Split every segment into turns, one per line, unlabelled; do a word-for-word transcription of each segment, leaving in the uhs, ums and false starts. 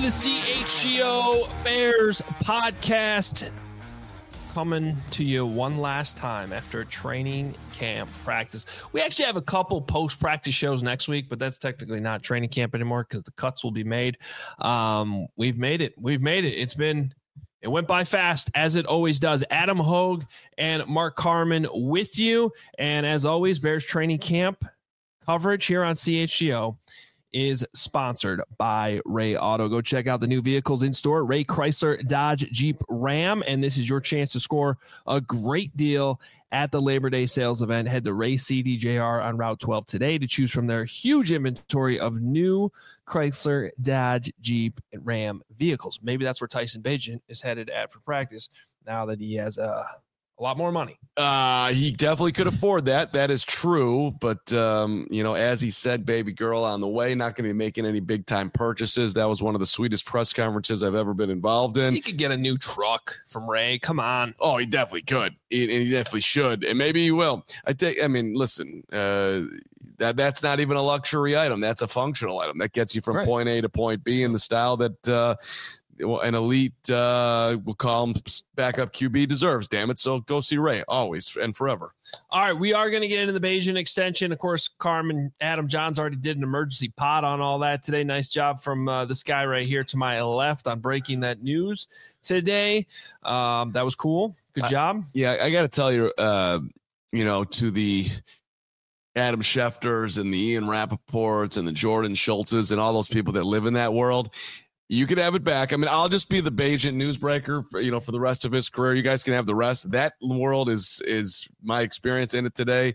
the C H G O Bears podcast, coming to you one last time after training camp practice. We actually have a couple post-practice shows next week, but that's technically not training camp anymore because the cuts will be made. Um, we've made it. We've made it. It's been, it went by fast, as it always does. Adam Hogue and Mark Carman with you. And as always, Bears training camp coverage here on C H G O is sponsored by Ray Auto. Go check out the new vehicles in store, Ray Chrysler, Dodge, Jeep, Ram, and this is your chance to score a great deal at the Labor Day sales event. Head to Ray C D J R on Route twelve today to choose from their huge inventory of new Chrysler, Dodge, Jeep, and Ram vehicles. Maybe that's where Tyson Bagent is headed at for practice now that he has a, a lot more money.
Uh, he definitely could afford that. That is true. But, um, you know, as he said, baby girl on the way, not going to be making any big time purchases. That was one of the sweetest press conferences I've ever been involved in.
He could get a new truck from Ray. Come on.
Oh, he definitely could. He, and he definitely should. And maybe he will. I take, I mean, listen, uh, that that's not even a luxury item. That's a functional item that gets you from right. point A to point B in the style that, uh, an elite, uh, we'll call him backup Q B deserves, damn it. So go see Ray always and forever.
All right, we are going to get into the Bagent extension. Of course, Carmen, Adam Johns already did an emergency pod on all that today. Nice job from uh, this guy right here to my left on breaking that news today. Um, that was cool. Good
I,
job.
Yeah, I got to tell you, uh, you know, to the Adam Schefters and the Ian Rappaports and the Jordan Schultzes and all those people that live in that world, you could have it back. I mean, I'll just be the Bagent newsbreaker for, you know, for the rest of his career. You guys can have the rest. That world is is my experience in it today.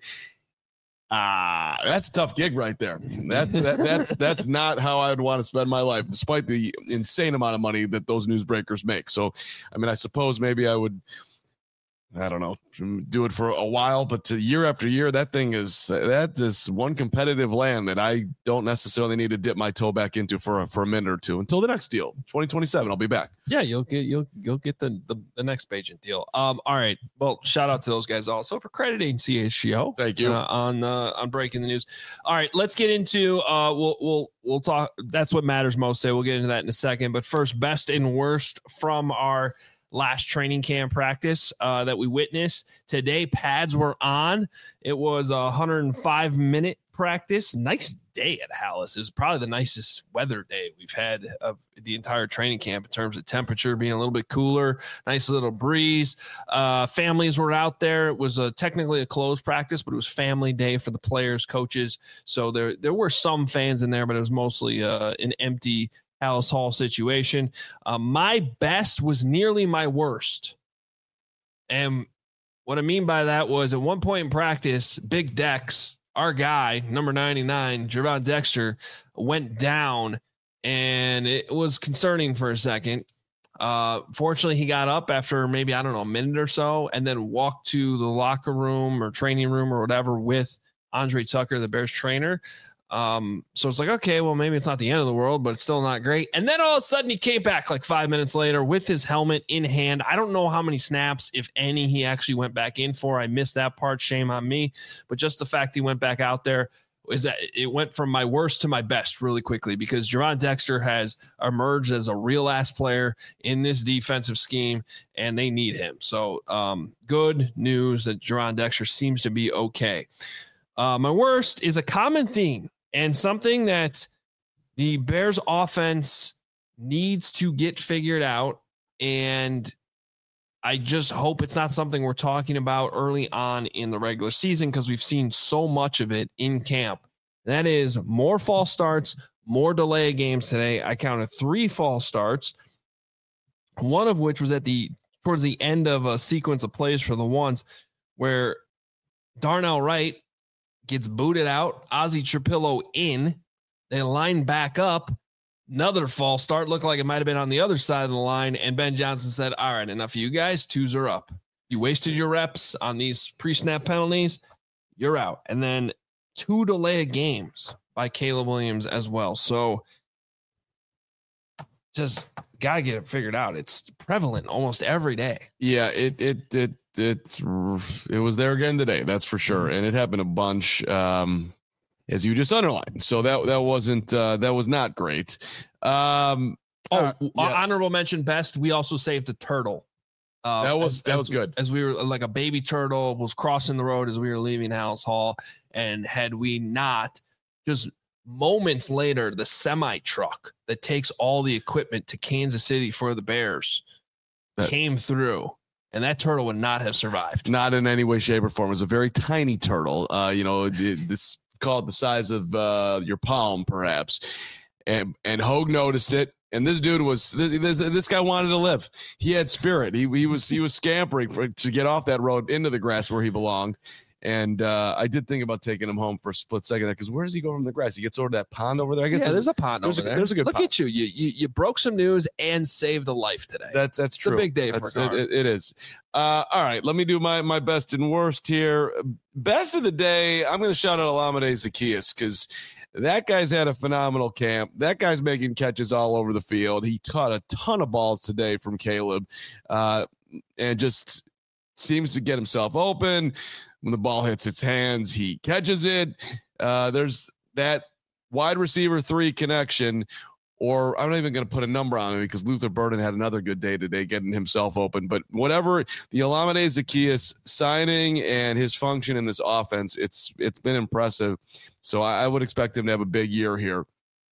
Ah, uh, that's a tough gig right there. That, that that's that's not how I would want to spend my life, despite the insane amount of money that those newsbreakers make. So, I mean, I suppose maybe I would, I don't know, do it for a while, but to year after year, that thing is, that is one competitive land that I don't necessarily need to dip my toe back into for a, for a minute or two until the next deal. twenty twenty-seven, I'll be back.
Yeah, you'll get, you'll, you'll get the, the, the next Bagent deal. Um, all right. Well, shout out to those guys also for crediting C H G O.
Thank you.
Uh, on, uh, on breaking the news. All right, let's get into, uh, we'll, we'll, we'll talk. That's what matters most. Say we'll get into that in a second, but first, best and worst from our last training camp practice uh, that we witnessed today. Pads were on. It was a one hundred five minute practice. Nice day at Halas. It was probably the nicest weather day we've had of the entire training camp in terms of temperature being a little bit cooler, nice little breeze. Uh, families were out there. It was a, technically a closed practice, but it was family day for the players, coaches. So there, there were some fans in there, but it was mostly uh, an empty Halas Hall situation. Uh, my best was nearly my worst. And what I mean by that was at one point in practice, Big Dex, our guy, number ninety-nine, Gervon Dexter, went down, and it was concerning for a second. Uh, fortunately, he got up after maybe, I don't know, a minute or so, and then walked to the locker room or training room or whatever with Andre Tucker, the Bears trainer. Um, so it's like, okay, well, maybe it's not the end of the world, but it's still not great. And then all of a sudden he came back like five minutes later with his helmet in hand. I don't know how many snaps, if any, he actually went back in for. I missed that part. Shame on me. But just the fact he went back out there is that it went from my worst to my best really quickly, because Gervon Dexter has emerged as a real ass player in this defensive scheme, and they need him. So um, good news that Gervon Dexter seems to be okay. Uh, my worst is a common theme, and something that the Bears offense needs to get figured out. And I just hope it's not something we're talking about early on in the regular season, because we've seen so much of it in camp. That is more false starts, more delay games today. I counted three false starts, one of which was at the towards the end of a sequence of plays for the ones where Darnell Wright gets booted out, Ozzie Trapillo in, they line back up, another false start, looked like it might have been on the other side of the line, and Ben Johnson said, all right, enough of you guys, twos are up. You wasted your reps on these pre-snap penalties, you're out. And then two delay games by Caleb Williams as well. So just got to get it figured out. It's prevalent almost every day.
Yeah, it it it it's it was there again today, that's for sure, and it happened a bunch, um, as you just underlined. So that that wasn't uh, that was not great. Um,
Oh,
Uh, yeah.
honorable mention best. We also saved a turtle. Uh,
that was
as,
that
as,
was good.
As we were like a baby turtle was crossing the road as we were leaving House Hall, and had we not, just moments later, the semi truck that takes all the equipment to Kansas City for the Bears that came through, and that turtle would not have survived.
Not in any way, shape, or form. It was a very tiny turtle. Uh, you know, it, this called the size of uh, your palm, perhaps. And and Hogue noticed it. And this dude was this, this guy wanted to live. He had spirit. He he was he was scampering for to get off that road into the grass where he belonged. And uh, I did think about taking him home for a split second because where does he go from the grass? He gets over to that pond over there. I guess
yeah,
there's,
there's a pond
there's
over
a,
there.
There's a good.
Look
pond.
at you. You you you broke some news and saved a life today.
That's that's
it's
true.
a big day
that's,
for
it, it is. Uh, all right, let me do my my best and worst here. Best of the day. I'm going to shout out Olamide Zaccheaus because that guy's had a phenomenal camp. That guy's making catches all over the field. He caught a ton of balls today from Caleb, uh, and just seems to get himself open. When the ball hits its hands, he catches it. Uh, there's that wide receiver three connection, or I'm not even going to put a number on it because Luther Burden had another good day today getting himself open. But whatever, the Olamide Zaccheaus signing and his function in this offense, it's it's been impressive. So I, I would expect him to have a big year here.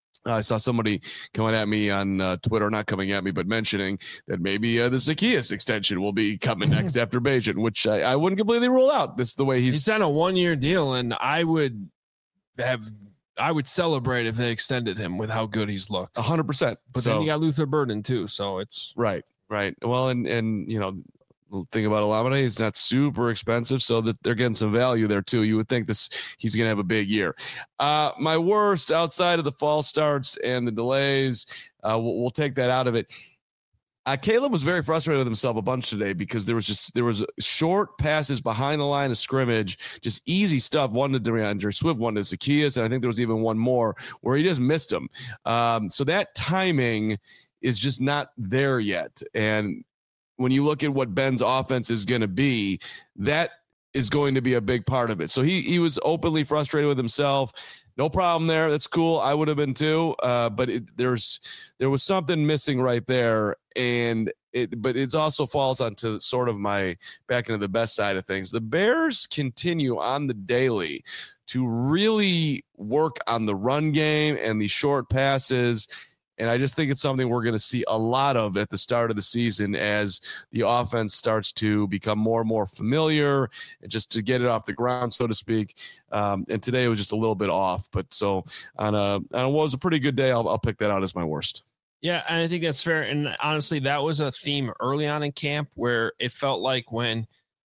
I saw somebody coming at me on uh, Twitter, not coming at me, but mentioning that maybe uh, the Zaccheaus extension will be coming next after Bajan, which I, I wouldn't completely rule out. This is the way he's,
he's on a one-year deal, and I would have, I would celebrate if they extended him with how good he's looked.
A hundred percent.
But
so,
then you got Luther Burden too, so it's
right, right. Well, and and you know. The thing about Olamide, he's not super expensive, so that they're getting some value there too. You would think this he's going to have a big year. Uh, my worst, outside of the false starts and the delays, uh, we'll, we'll take that out of it. Uh, Caleb was very frustrated with himself a bunch today because there was just there was short passes behind the line of scrimmage, just easy stuff. One to DeAndre Swift, one to Zaccheaus, and I think there was even one more where he just missed them. Um, so that timing is just not there yet, and when you look at what Ben's offense is going to be, that is going to be a big part of it. So he he was openly frustrated with himself. No problem there. That's cool. I would have been too. Uh, but it, there's there was something missing right there, and it but it also falls onto sort of my back into the best side of things. The Bears continue on the daily to really work on the run game and the short passes. And I just think it's something we're going to see a lot of at the start of the season as the offense starts to become more and more familiar and just to get it off the ground, so to speak. Um, and today it was just a little bit off. But so on a, on a what was a pretty good day, I'll, I'll pick that out as my worst.
Yeah, and I think that's fair. And honestly, that was a theme early on in camp where it felt like when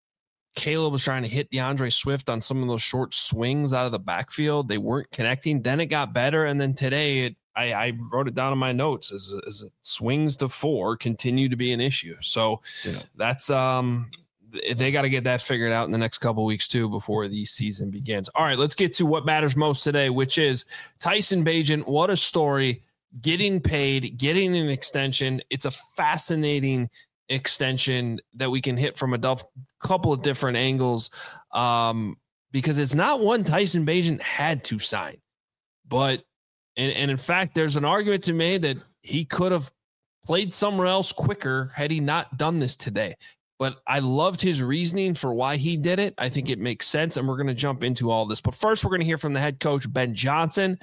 Caleb was trying to hit DeAndre Swift on some of those short swings out of the backfield, they weren't connecting. Then it got better. And then today it, I, I wrote it down in my notes as, as it swings to four continue to be an issue. So yeah. that's um they got to get that figured out in the next couple of weeks too before the season begins. All right, let's get to what matters most today, which is Tyson Bagent. What a story! Getting paid, getting an extension. It's a fascinating extension that we can hit from a duff, couple of different angles um, because it's not one Tyson Bagent had to sign, but. And, and in fact, there's an argument to be made that he could have played somewhere else quicker had he not done this today. But I loved his reasoning for why he did it. I think it makes sense, and we're going to jump into all this. But first, we're going to hear from the head coach, Ben Johnson,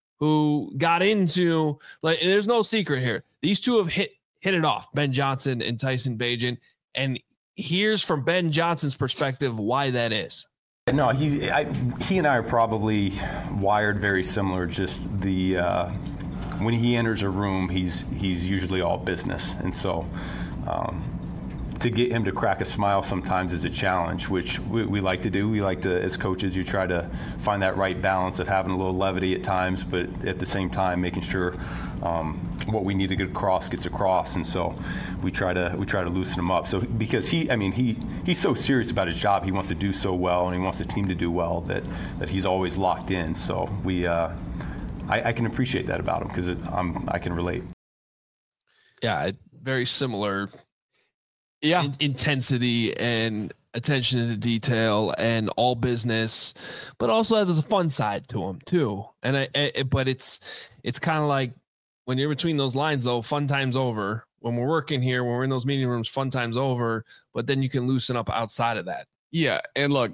who got into, like, there's no secret here. These two have hit hit it off, Ben Johnson and Tyson Bagent. And here's from Ben Johnson's perspective why that is.
No, he I, he and I are probably wired very similar. Just the uh, when he enters a room, he's he's usually all business, and so um, to get him to crack a smile sometimes is a challenge, which we, we like to do. We like to, as coaches, you try to find that right balance of having a little levity at times, but at the same time making sure um, what we need to get across gets across, and so we try to we try to loosen him up. So because he, I mean, he he's so serious about his job, he wants to do so well, and he wants the team to do well that that he's always locked in. So we, uh, I, I can appreciate that about him because I'm I can relate.
Yeah, very similar.
Yeah,
in, intensity and attention to detail and all business, but also there's a fun side to him too. And I, I but it's it's kind of like when you're between those lines, though, fun time's over. When we're working here, when we're in those meeting rooms, fun time's over. But then you can loosen up outside of that.
Yeah, and look,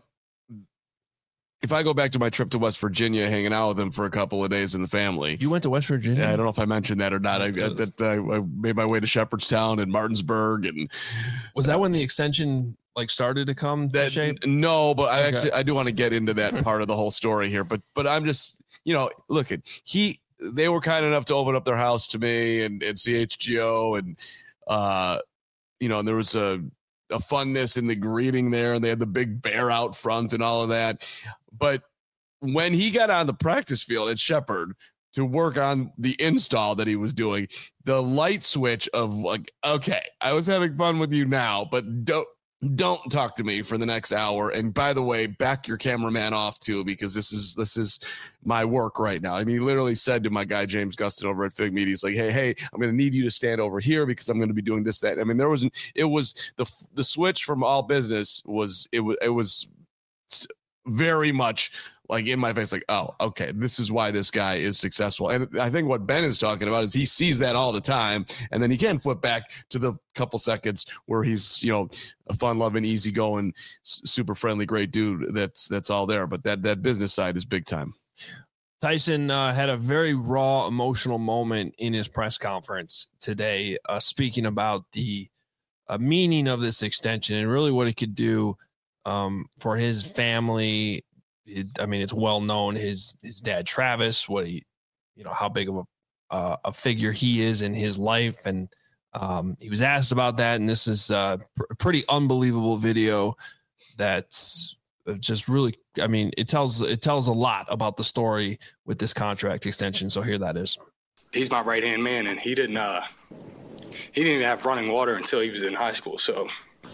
if I go back to my trip to West Virginia, hanging out with him for a couple of days in the family.
You went to West Virginia?
Yeah, I don't know if I mentioned that or not. I, I, that, uh, I made my way to Shepherdstown and Martinsburg. And
was that uh, when the extension like started to come
that,
to shape?
No, but I okay. actually I do want to get into that part of the whole story here. But but I'm just, you know, look at he they were kind enough to open up their house to me and, and C H G O and uh you know, and there was a a funness in the greeting there, and they had the big bear out front and all of that. But when he got on the practice field at Shepherd to work on the install that he was doing, the light switch of like, okay, I was having fun with you now, but don't don't talk to me for the next hour. And by the way, back your cameraman off too, because this is this is my work right now. I mean, he literally said to my guy James Gustin over at Fig Media, he's like, hey, hey, I'm going to need you to stand over here because I'm going to be doing this, that. I mean, there was it was the the switch from all business was it was it was very much like in my face, like, oh, okay, this is why this guy is successful. And I think what Ben is talking about is he sees that all the time, and then he can flip back to the couple seconds where he's, you know, a fun-loving, easygoing, super friendly, great dude. That's that's all there. But that that business side is big time.
Tyson uh, had a very raw, emotional moment in his press conference today, uh, speaking about the uh, meaning of this extension and really what it could do um, for his family. It, I mean, it's well known his his dad Travis, what he, you know, how big of a uh, a figure he is in his life, and um, he was asked about that. And this is a pr- pretty unbelievable video that's just really, I mean, it tells it tells a lot about the story with this contract extension. So here that is.
He's my right hand man, and he didn't uh, he didn't even have running water until he was in high school. So.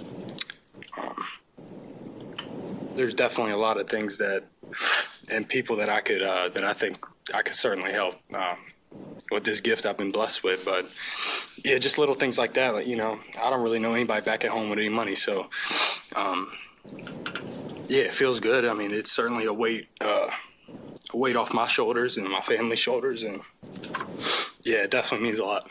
Um, There's definitely a lot of things that, and people that I could, uh, that I think I could certainly help um, with this gift I've been blessed with. But yeah, just little things like that. Like, you know, I don't really know anybody back at home with any money, so um, yeah, it feels good. I mean, it's certainly a weight, uh, a weight off my shoulders and my family's shoulders, and yeah, it definitely means a lot.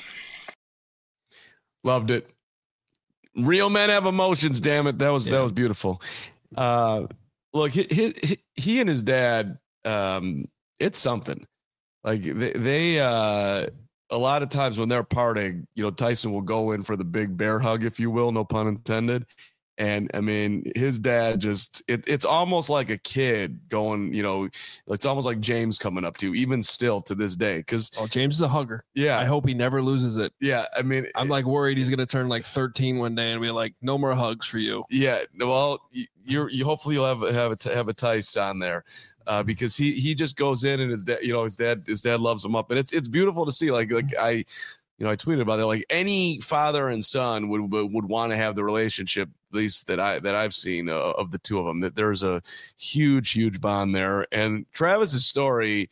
Loved it. Real men have emotions. Damn it, that was yeah. that was beautiful. Uh, look, he, he, he and his dad, um, it's something like they, they, uh, a lot of times when they're parting, you know, Tyson will go in for the big bear hug, if you will, no pun intended. And I mean, his dad just, it, it's almost like a kid going, you know, it's almost like James coming up to you, even still to this day. Cause
oh, James is a hugger.
Yeah.
I hope he never loses it.
Yeah. I mean,
I'm like worried he's going to turn like thirteen one day and be like, no more hugs for you.
Yeah. Well, you're, you hopefully you'll have, have a, have a Tice on there. Uh, because he, he just goes in and his dad, you know, his dad, his dad loves him up, and it's, it's beautiful to see. Like, like I, you know, I tweeted about it. Like any father and son would would, would want to have the relationship, at least that I that I've seen uh, of the two of them. That there's a huge, huge bond there. And Travis's story,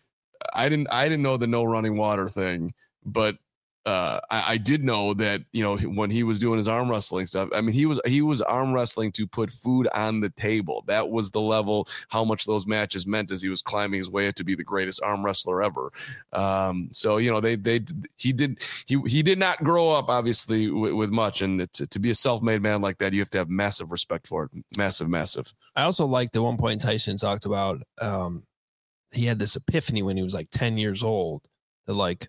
I didn't I didn't know the no running water thing, but uh, I, I did know that, you know, when he was doing his arm wrestling stuff, I mean, he was he was arm wrestling to put food on the table. That was the level how much those matches meant as he was climbing his way up to be the greatest arm wrestler ever. Um, so, you know, they they he did he he did not grow up obviously with, with much, and to, to be a self-made man like that, you have to have massive respect for it. Massive, massive.
I also liked at one point Tyson talked about um, he had this epiphany when he was like ten years old that like,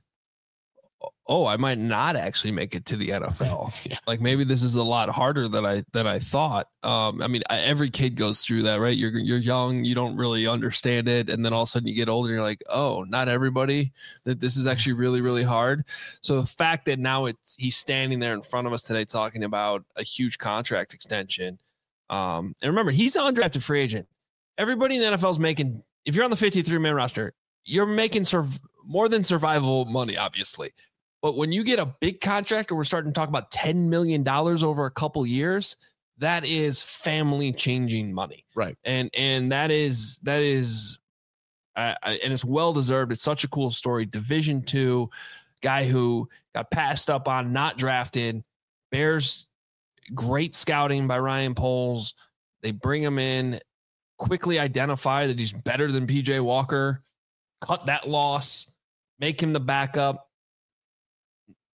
oh, I might not actually make it to the N F L. Yeah. Like maybe this is a lot harder than I than I thought. Um, I mean, I, every kid goes through that, right? You're you're young, you don't really understand it, and then all of a sudden you get older, and you're like, oh, not everybody. That this is actually really really hard. So the fact that now it's he's standing there in front of us today talking about a huge contract extension, um, and remember he's an undrafted free agent. Everybody in the N F L is making. If you're on the fifty-three man roster, you're making serv- more than survival money, obviously. But when you get a big contract, or we're starting to talk about ten million dollars over a couple years, that is family changing money.
Right.
And, and that is, that is, uh, and it's well-deserved. It's such a cool story. Division two guy who got passed up on, not drafted. Bears, great scouting by Ryan Poles. They bring him in, quickly identify that he's better than P J Walker, cut that loss, make him the backup.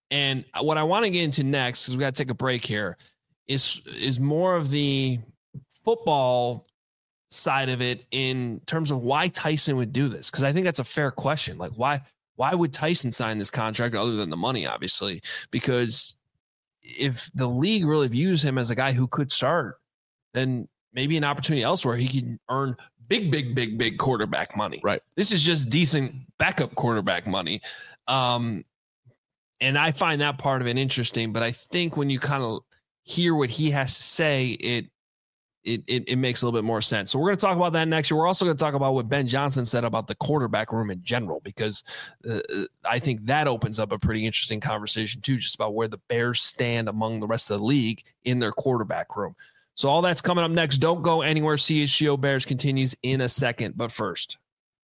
And what I want to get into next, because we got to take a break here, is is more of the football side of it in terms of why Tyson would do this. Because I think that's a fair question. Like, why why would Tyson sign this contract other than the money, obviously? Because if the league really views him as a guy who could start, then maybe an opportunity elsewhere he can earn big, big, big, big quarterback money.
Right.
This is just decent backup quarterback money. Um, and I find that part of it interesting. But I think when you kind of hear what he has to say, it It, it it makes a little bit more sense. So we're going to talk about that next year. We're also going to talk about what Ben Johnson said about the quarterback room in general, because uh, I think that opens up a pretty interesting conversation too, just about where the Bears stand among the rest of the league in their quarterback room. So all that's coming up next. Don't go anywhere. C H G O Bears continues in a second. But first,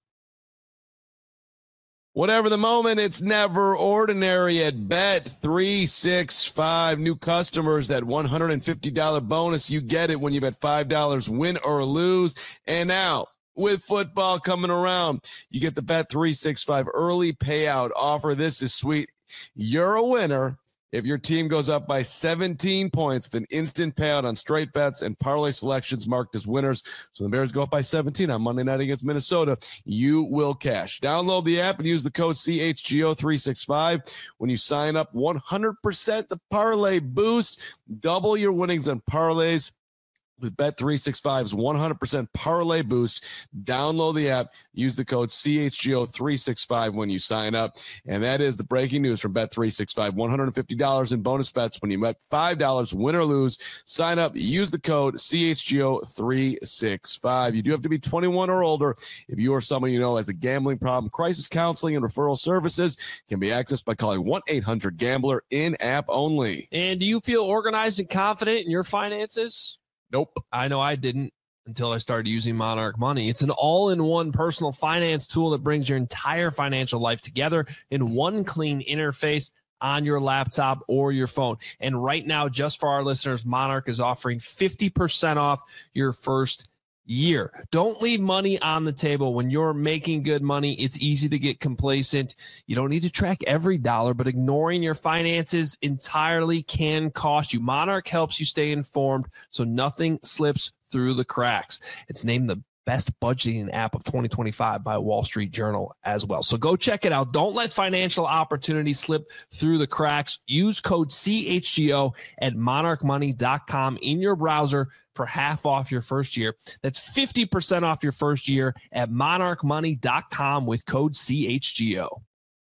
whatever the moment, it's never ordinary at Bet three sixty-five. New customers, that one hundred fifty dollars bonus, you get it when you bet five dollars, win or lose. And now, with football coming around, you get the Bet three sixty-five early payout offer. This is sweet. You're a winner if your team goes up by seventeen points, then instant payout on straight bets and parlay selections marked as winners. So the Bears go up by seventeen on Monday night against Minnesota. You will cash. Download the app and use the code C H G O three sixty-five. When you sign up, one hundred percent the parlay boost. Double your winnings on parlays with Bet three sixty-five's one hundred percent parlay boost. Download the app. Use the code C H G O three sixty-five when you sign up. And that is the breaking news from Bet three sixty-five. one hundred fifty dollars in bonus bets when you bet five dollars, win or lose. Sign up. Use the code C H G O three sixty-five. You do have to be twenty-one or older. If you or someone you know has a gambling problem, crisis counseling and referral services can be accessed by calling one eight hundred gambler, in-app only.
And do you feel organized and confident in your finances?
Nope.
I know I didn't until I started using Monarch Money. It's an all-in-one personal finance tool that brings your entire financial life together in one clean interface on your laptop or your phone. And right now, just for our listeners, Monarch is offering fifty percent off your first year. Don't leave money on the table. When you're making good money, it's easy to get complacent. You don't need to track every dollar, but ignoring your finances entirely can cost you. Monarch helps you stay informed so nothing slips through the cracks. It's named the best budgeting app of twenty twenty-five by Wall Street Journal as well. So go check it out. Don't let financial opportunities slip through the cracks. Use code C H G O at monarch money dot com in your browser for half off your first year. That's fifty percent off your first year at monarch money dot com with code C H G O.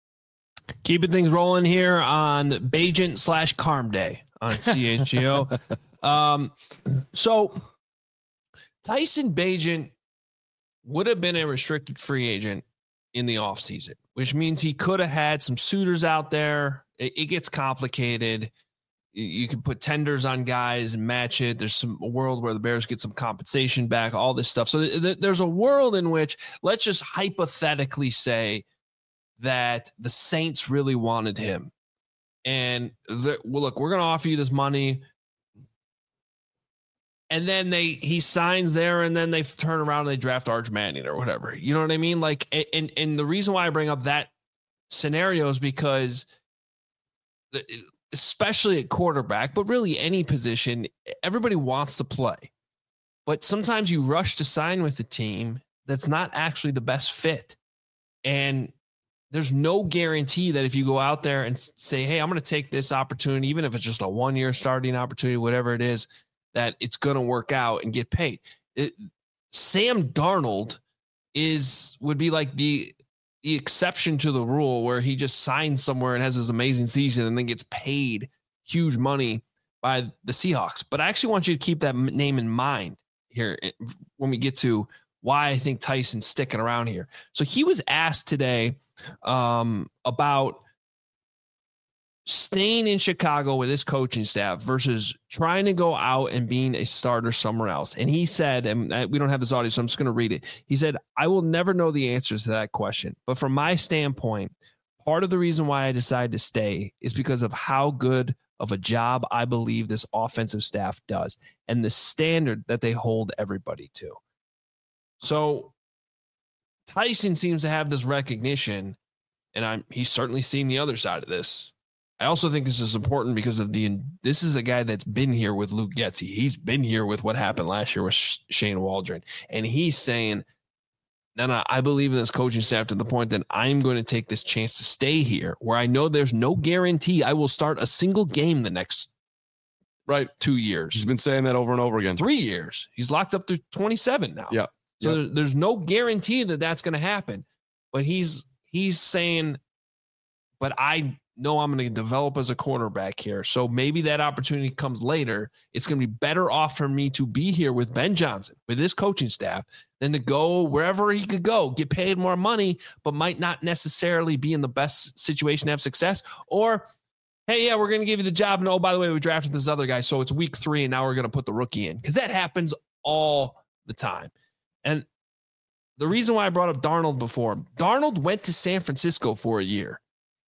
Keeping things rolling here on Bagent slash Carm Day on C H G O. um, so Tyson Bagent would have been a restricted free agent in the offseason, which means he could have had some suitors out there. It, it gets complicated. You, you can put tenders on guys and match it. There's some a world where the Bears get some compensation back, all this stuff. So th- th- there's a world in which, let's just hypothetically say that the Saints really wanted him. And the, well, look, we're going to offer you this money. And then they he signs there, and then they turn around and they draft Arch Manning or whatever. You know what I mean? Like, and and the reason why I bring up that scenario is because, especially at quarterback, but really any position, everybody wants to play. But sometimes you rush to sign with a team that's not actually the best fit. And there's no guarantee that if you go out there and say, hey, I'm going to take this opportunity, even if it's just a one-year starting opportunity, whatever it is, that it's going to work out and get paid. It, Sam Darnold is would be like the the exception to the rule, where he just signs somewhere and has this amazing season and then gets paid huge money by the Seahawks. But I actually want you to keep that name in mind here when we get to why I think Tyson's sticking around here. So he was asked today um, about staying in Chicago with his coaching staff versus trying to go out and being a starter somewhere else. And he said, and we don't have this audio, so I'm just going to read it. He said, I will never know the answers to that question. But from my standpoint, part of the reason why I decided to stay is because of how good of a job I believe this offensive staff does and the standard that they hold everybody to. So Tyson seems to have this recognition, and I'm he's certainly seen the other side of this. I also think this is important because of the, this is a guy that's been here with Luke Getsy. He's been here with what happened last year with Shane Waldron. And he's saying, no, no, I believe in this coaching staff to the point that I'm going to take this chance to stay here where I know there's no guarantee I will start a single game the next
right
two years.
He's been saying that over and over again.
Three years. He's locked up through twenty-seven now.
Yeah.
So
yeah.
there's no guarantee that that's going to happen. But he's he's saying, but I know I'm going to develop as a quarterback here. So maybe that opportunity comes later. It's going to be better off for me to be here with Ben Johnson, with his coaching staff, than to go wherever he could go, get paid more money, but might not necessarily be in the best situation to have success. Or, hey, yeah, we're going to give you the job. And oh, by the way, we drafted this other guy. So it's week three and now we're going to put the rookie in, because that happens all the time. And the reason why I brought up Darnold before, Darnold went to San Francisco for a year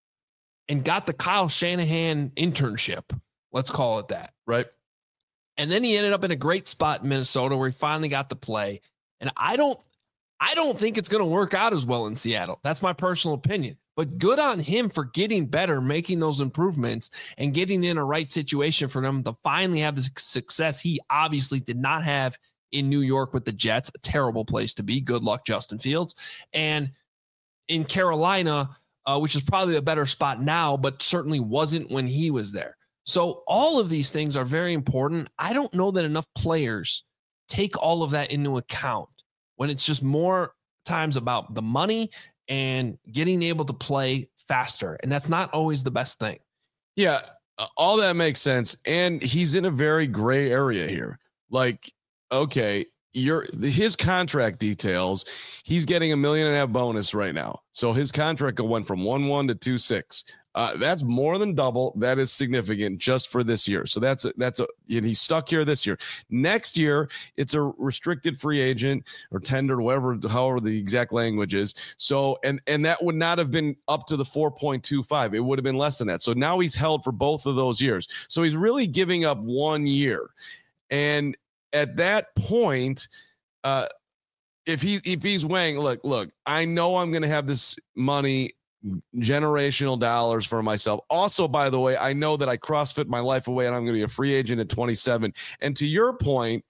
and got the Kyle Shanahan internship. Let's call it that.
Right.
And then he ended up in a great spot in Minnesota where he finally got to play. And I don't, I don't think it's going to work out as well in Seattle. That's my personal opinion. But good on him for getting better, making those improvements, and getting in a right situation for them to finally have the success he obviously did not have in New York with the Jets. A terrible place to be. Good luck, Justin Fields. And in Carolina, Uh, which is probably a better spot now, but certainly wasn't when he was there. So all of these things are very important. I don't know that enough players take all of that into account when it's just more times about the money and getting able to play faster. And that's not always the best thing.
Yeah, all that makes sense. And he's in a very gray area here. Like, okay, Your his contract details, he's getting a million and a half bonus right now. So his contract went from one one to two six. Uh, that's more than double. That is significant just for this year. So that's a, that's a and he's stuck here this year. Next year, it's a restricted free agent or tendered, whatever, however the exact language is. So and and that would not have been up to the four point two five. It would have been less than that. So now he's held for both of those years. So he's really giving up one year. And at that point, uh, if he if he's weighing, look, look, I know I'm going to have this money, generational dollars for myself. Also, by the way, I know that I CrossFit my life away and I'm going to be a free agent at twenty-seven. And to your point,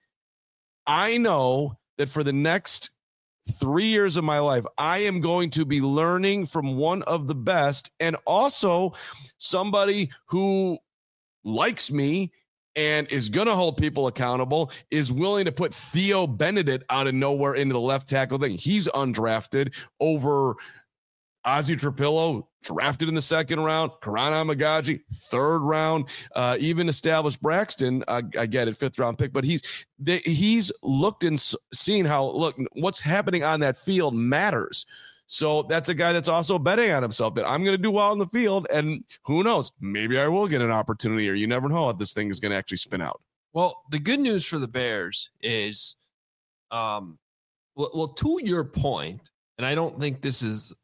I know that for the next three years of my life, I am going to be learning from one of the best, and also somebody who likes me and is going to hold people accountable, is willing to put Theo Benedict out of nowhere into the left tackle thing. He's undrafted over Ozzie Trapillo, drafted in the second round, Karan Amagaji, third round, uh, even established Braxton, uh, I get it, fifth round pick, but he's they, he's looked and seen how, look, what's happening on that field matters. So that's a guy that's also betting on himself that I'm going to do well in the field. And who knows, maybe I will get an opportunity, or you never know how this thing is going to actually spin out.
Well, the good news for the Bears is, um, well, well, to your point, and I don't think this is,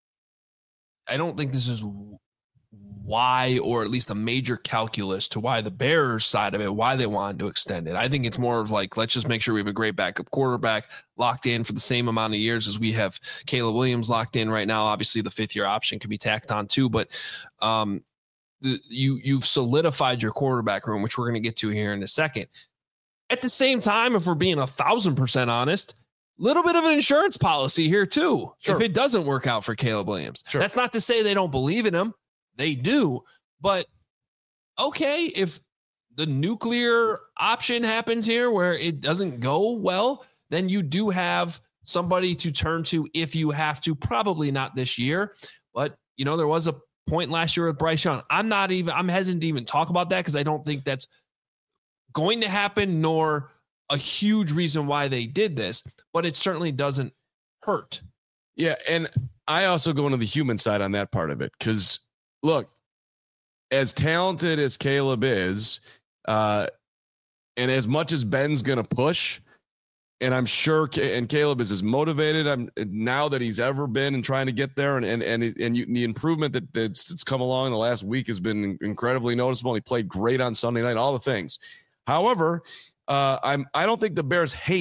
I don't think this is why, or at least a major calculus to why the Bears side of it, why they wanted to extend it. I think it's more of like, let's just make sure we have a great backup quarterback locked in for the same amount of years as we have Caleb Williams locked in right now. Obviously the fifth year option can be tacked on too, but um, you, you've solidified your quarterback room, which we're going to get to here in a second. At the same time, if we're being a thousand percent honest, little bit of an insurance policy here too. Sure. If it doesn't work out for Caleb Williams, sure. That's not to say they don't believe in him. They do, but okay, if the nuclear option happens here where it doesn't go well, then you do have somebody to turn to if you have to. Probably not this year, but you know, there was a point last year with Bryce Young. I'm not even, I'm hesitant to even talk about that because I don't think that's going to happen, nor a huge reason why they did this, but it certainly doesn't hurt.
Yeah. And I also go into the human side on that part of it. Cause look, as talented as Caleb is, uh, and as much as Ben's going to push, and I'm sure, and Caleb is as motivated I'm now that he's ever been and trying to get there. And, and, and, and you, the improvement that that's, that's come along in the last week has been incredibly noticeable. He played great on Sunday night, all the things. However, uh, I'm, I don't think the Bears hate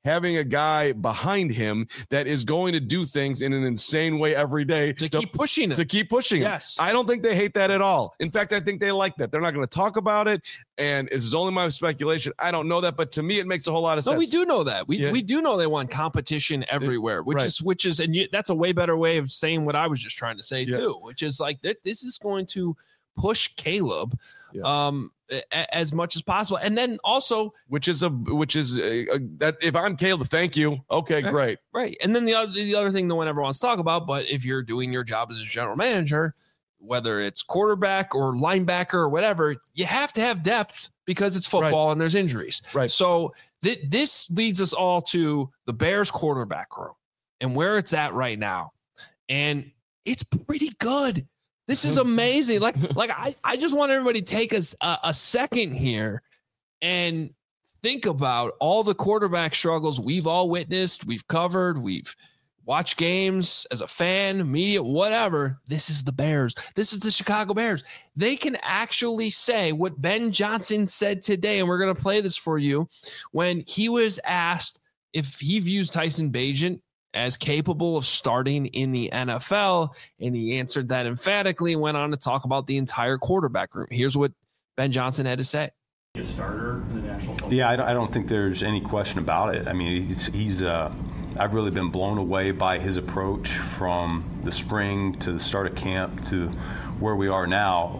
having a guy behind him that is going to do things in an insane way every day
to, to keep pushing it.
To keep pushing it.
Yes.
I don't think they hate that at all. In fact, I think they like that. They're not going to talk about it. And this is only my speculation. I don't know that, but to me, it makes a whole lot of
no,
sense.
we do know that. We
Yeah.
we do know they want competition everywhere, which
Right.
is which is, and you, that's a way better way of saying what I was just trying to say
Yeah.
too, which is like that. This is going to push Caleb
Yeah.
um a, as much as possible, and then also
which is a which is a, a, that if I'm Caleb, thank you. Okay,
Right.
great.
right, and then the other the other thing no one ever wants to talk about, but if you're doing your job as a general manager, whether it's quarterback or linebacker or whatever, you have to have depth because it's football and there's injuries.
Right.
So th- this leads us all to the Bears quarterback room and where it's at right now. And it's pretty good. This is amazing. Like, like I, I just want everybody to take us a, a second here and think about all the quarterback struggles we've all witnessed, we've covered, we've watched games as a fan, media, whatever. This is the Bears. This is the Chicago Bears. They can actually say what Ben Johnson said today, and we're going to play this for you, when he was asked if he views Tyson Bagent as capable of starting in the N F L, and he answered that emphatically and went on to talk about the entire quarterback room. Here's what Ben Johnson had to say.
A starter in the National Football.
Yeah, I don't, I don't think there's any question about it. I mean, he's, he's uh, I've really been blown away by his approach from the spring to the start of camp to where we are now.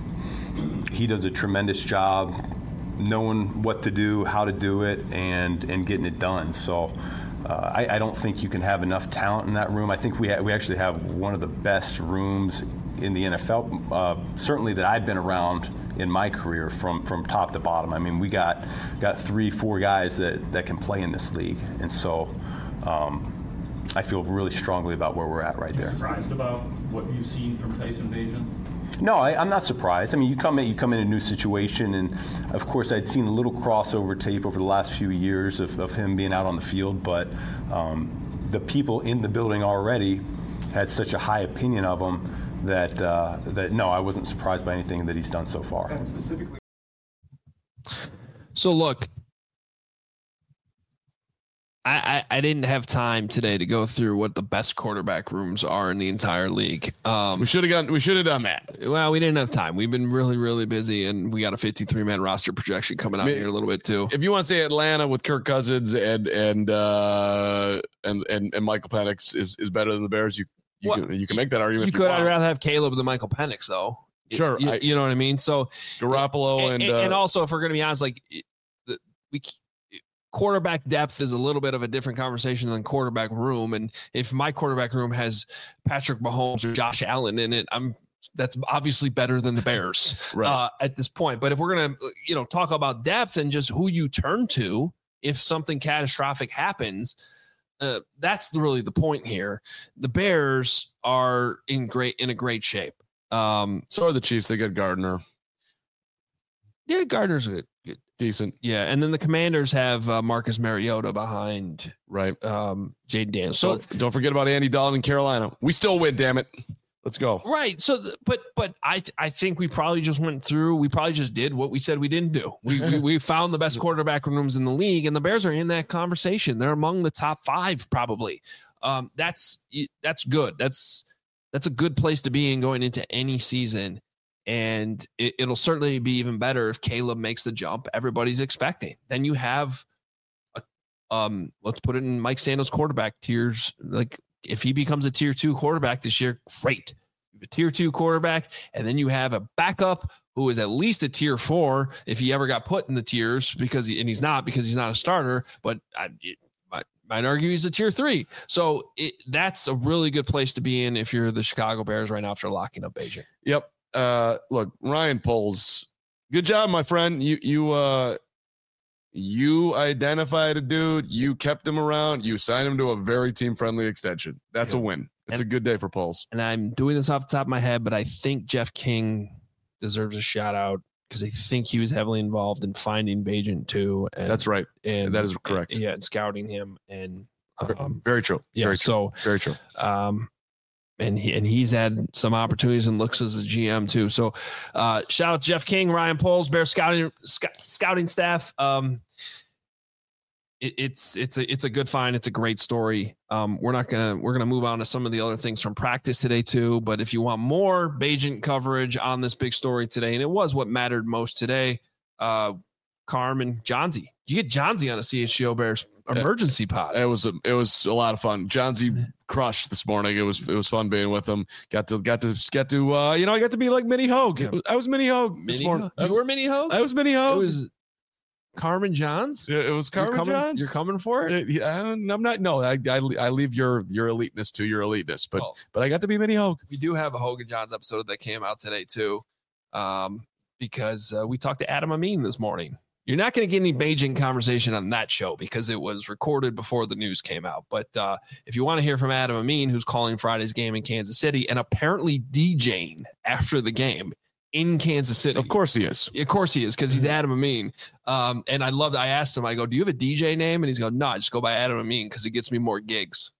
Um, he does a tremendous job knowing what to do, how to do it, and, and getting it done. So uh, I, I don't think you can have enough talent in that room. I think we ha- we actually have one of the best rooms in the N F L, uh, certainly that I've been around in my career from, from top to bottom. I mean, we got got three, four guys that, that can play in this league. And so um, I feel really strongly about where we're at right there.
Surprised about what you've seen from Tyson Bagent?
No, I, I'm not surprised. I mean, you come in, you come in a new situation, and of course, I'd seen a little crossover tape over the last few years of, of him being out on the field, but um, the people in the building already had such a high opinion of him that uh, that no, I wasn't surprised by anything that he's done so far.
And specifically,
So look, I, I, I didn't have time today to go through what the best quarterback rooms are in the entire league. Um,
We should have gotten. We should have done that.
well, we didn't have time. We've been really, really busy, and we got a fifty-three man roster projection coming out
May-
here in a little bit too.
If you want to say Atlanta with Kirk Cousins and and uh, and and and Michael Penix is, is better than the Bears, you you
Well,
can you can make that argument.
You
if
could.
want.
I'd rather have Caleb than Michael Penix, though.
Sure,
you,
I-
you know what I mean. So,
Garoppolo and
and,
uh,
and also, if we're going to be honest, like the, we quarterback depth is a little bit of a different conversation than quarterback room. And if my quarterback room has Patrick Mahomes or Josh Allen in it, I'm that's obviously better than the Bears
Right.
uh, at this point. But if we're going to, you know, talk about depth and just who you turn to if something catastrophic happens, uh, that's the, really the point here. The Bears are in great in a great shape. Um,
so are the Chiefs. They got Gardner,
yeah, Gardner's good. good.
decent,
Yeah, and then the Commanders have uh, Marcus Mariota behind
right?
um, Jaden Daniels. So
Don't, don't forget about Andy Dalton in Carolina. We still win, damn it. Let's go.
right. So, th- but but I I think we probably just went through. We probably just did what we said we didn't do. We we, we found the best quarterback rooms in the league, and the Bears are in that conversation. They're among the top five probably. Um, that's that's good. That's that's a good place to be in going into any season. And it, it'll certainly be even better if Caleb makes the jump everybody's expecting. Then you have, a, um, let's put it in Mike Sando's quarterback tiers. Like if he becomes a tier two quarterback this year, great. You have a tier two quarterback, and then you have a backup who is at least a tier four if he ever got put in the tiers because he, and he's not because he's not a starter. But I it, might, might argue he's a tier three. So it, that's a really good place to be in if you're the Chicago Bears right now after locking up Bagent.
Yep. Uh, look, Ryan Poles, good job, my friend. You you uh you identified a dude, you kept him around, you signed him to a very team friendly extension. That's
Yeah.
a win. It's
And-
a good day for Poles.
And I'm doing this off the top of my head, but I think Jeff King deserves a shout out because I think he was heavily involved in finding Bagent too. And,
That's right.
and
That is correct.
Yeah, and scouting him and um,
Very true.
yeah.
Very true.
So
Very true.
um, and he and he's had some opportunities and looks as a G M too. So uh, shout out to Jeff King, Ryan Poles, Bear scouting sc- scouting staff. Um, it, it's it's a it's a good find. It's a great story. Um, we're not gonna we're gonna move on to some of the other things from practice today too. But if you want more Bagent coverage on this big story today, and it was what mattered most today, uh, Carm and Johnsy, you get Johnsy on a C H G O Bears emergency pod.
It was a, it was a lot of fun. Johnsy crushed this morning. It was it was fun being with him. Got to got to get to uh, you know I got to be like Mini Hogue. Yeah. I was Mini Hogue this
Mini
morning.
Hogue. You
was,
were Mini Hogue.
I was Mini Hogue.
It was Carmen Johns.
Yeah, it was Carmen
you're coming,
Johns.
You're coming for it.
it I'm not. No, I, I I leave your your eliteness to your eliteness. But
well,
but I got to be Mini Hogue.
We do have a Hogan Johns episode that came out today too, um, because uh, we talked to Adam Amin this morning. You're not going to get any Beijing conversation on that show because it was recorded before the news came out. But uh, if you want to hear from Adam Amin, who's calling Friday's game in Kansas City and apparently DJing after the game in Kansas City.
Of course he is.
Of course he is, because he's Adam Amin. Um, and I loved, I asked him, I go, do you have a D J name? And he's going, no, I just go by Adam Amin because it gets me more gigs.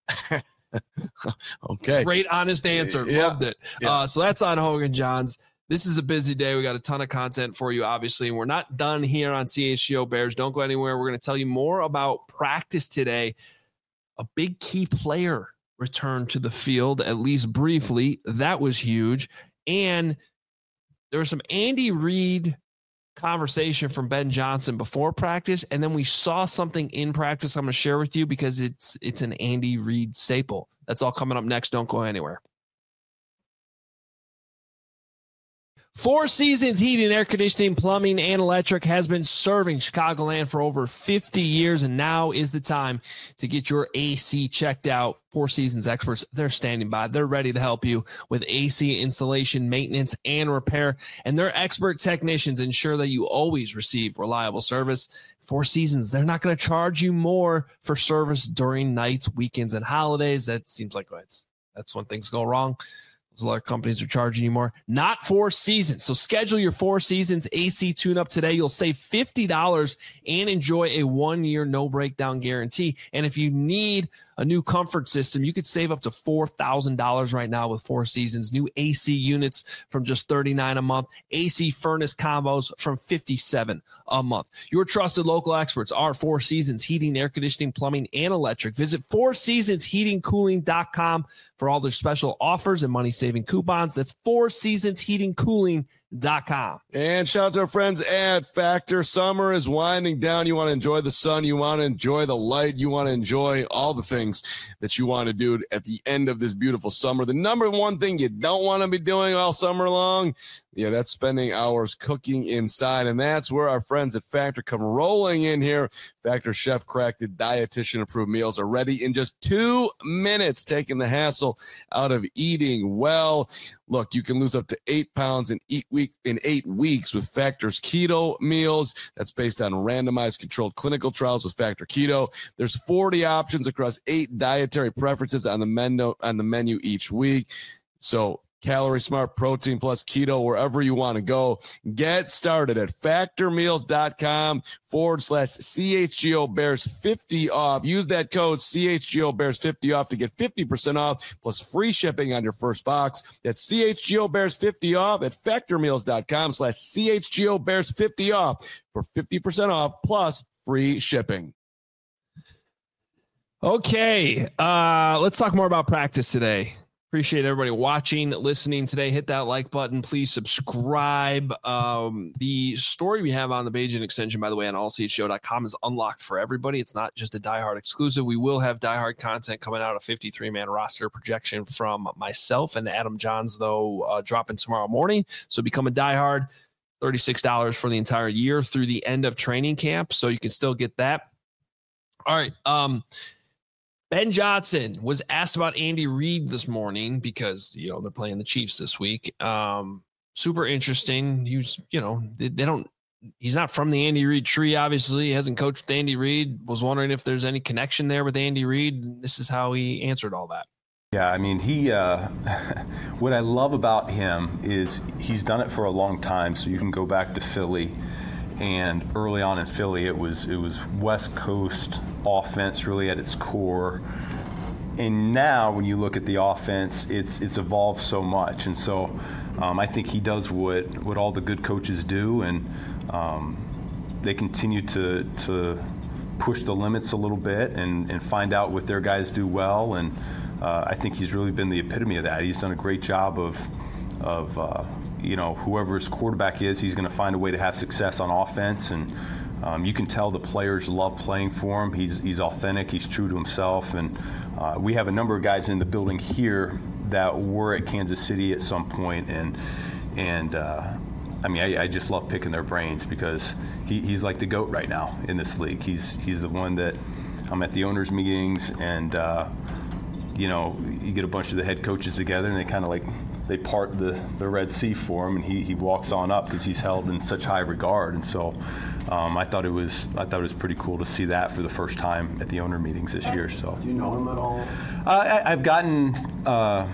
Okay.
Great, honest answer.
Yeah.
Loved it.
Yeah.
Uh, so that's on Hogan Johns. This is a busy day. We got a ton of content for you, obviously, and we're not done here on C H G O Bears. Don't go anywhere. We're going to tell you more about practice today. A big key player returned to the field, at least briefly. That was huge. And there was some Andy Reid conversation from Ben Johnson before practice, and then we saw something in practice I'm going to share with you because it's it's an Andy Reid staple. That's all coming up next. Don't go anywhere. Four Seasons Heating, Air Conditioning, Plumbing, and Electric has been serving Chicagoland for over fifty years, and now is the time to get your A C checked out. Four Seasons experts, they're standing by. They're ready to help you with A C installation, maintenance, and repair, and their expert technicians ensure that you always receive reliable service. Four Seasons, they're not going to charge you more for service during nights, weekends, and holidays. That seems like it's, that's when things go wrong. A lot of companies are charging you more. Not Four Seasons. So schedule your Four Seasons A C tune-up today. You'll save fifty dollars and enjoy a one-year no-breakdown guarantee. And if you need a new comfort system, you could save up to four thousand dollars right now with Four Seasons. New A C units from just thirty-nine dollars a month. A C furnace combos from fifty-seven dollars a month. Your trusted local experts are Four Seasons Heating, Air Conditioning, Plumbing, and Electric. Visit four seasons heating cooling dot com for all their special offers and money-saving coupons. That's four seasons heating cooling dot com.
And shout out to our friends at Factor. Summer is winding down. You want to enjoy the sun. You want to enjoy the light. You want to enjoy all the things that you want to do at the end of this beautiful summer. The number one thing you don't want to be doing all summer long, yeah, that's spending hours cooking inside. And that's where our friends at Factor come rolling in here. Factor chef-crafted, dietitian-approved meals are ready in just two minutes, taking the hassle out of eating well. Look, you can lose up to eight pounds in eight week in eight weeks with Factor's keto meals. That's based on randomized controlled clinical trials with Factor Keto. There's forty options across eight dietary preferences on the menu on the menu each week. So Calorie Smart, Protein Plus, Keto, wherever you want to go. Get started at factormeals.com forward slash CHGO Bears 50 off. Use that code C H G O Bears 50 off to get fifty percent off plus free shipping on your first box. That's C H G O Bears 50 off at factormeals.com slash CHGO Bears 50 off for fifty percent off plus free shipping.
Okay, uh, let's talk more about practice today. Appreciate everybody watching, listening today. Hit that like button. Please subscribe. Um, the story we have on the Bagent extension, by the way, on all c h g o dot com is unlocked for everybody. It's not just a diehard exclusive. We will have diehard content coming out, a fifty-three man roster projection from myself and Adam Johns, though, uh, dropping tomorrow morning. So become a diehard, thirty-six dollars for the entire year through the end of training camp. So you can still get that. All right. Um, Ben Johnson was asked about Andy Reid this morning because, you know, they're playing the Chiefs this week. Um, super interesting. He was, you know, they, they don't, he's not from the Andy Reid tree. Obviously, he hasn't coached with Andy Reid. Was wondering if there's any connection there with Andy Reid. This is how he answered all that.
Yeah, I mean, he, uh, what I love about him is he's done it for a long time. So you can go back to Philly. And early on in Philly, it was it was West Coast offense really at its core. And now when you look at the offense, it's it's evolved so much. And so um, I think he does what, what all the good coaches do, and um, they continue to to push the limits a little bit and, and find out what their guys do well. And uh, I think he's really been the epitome of that. He's done a great job of, of uh, you know, whoever his quarterback is, he's going to find a way to have success on offense. And um, you can tell the players love playing for him. He's, he's authentic. He's true to himself. And uh, we have a number of guys in the building here that were at Kansas City at some point. And, and uh, I mean, I, I just love picking their brains because he, he's like the GOAT right now in this league. He's he's the one that I'm at the owners' meetings, and uh, you know, you get a bunch of the head coaches together, and they kind of like they part the, the Red Sea for him, and he, he walks on up because he's held in such high regard. And so um, I thought it was I thought it was pretty cool to see that for the first time at the owner meetings this year. So
do you know him at all?
Uh, I, I've gotten. Uh,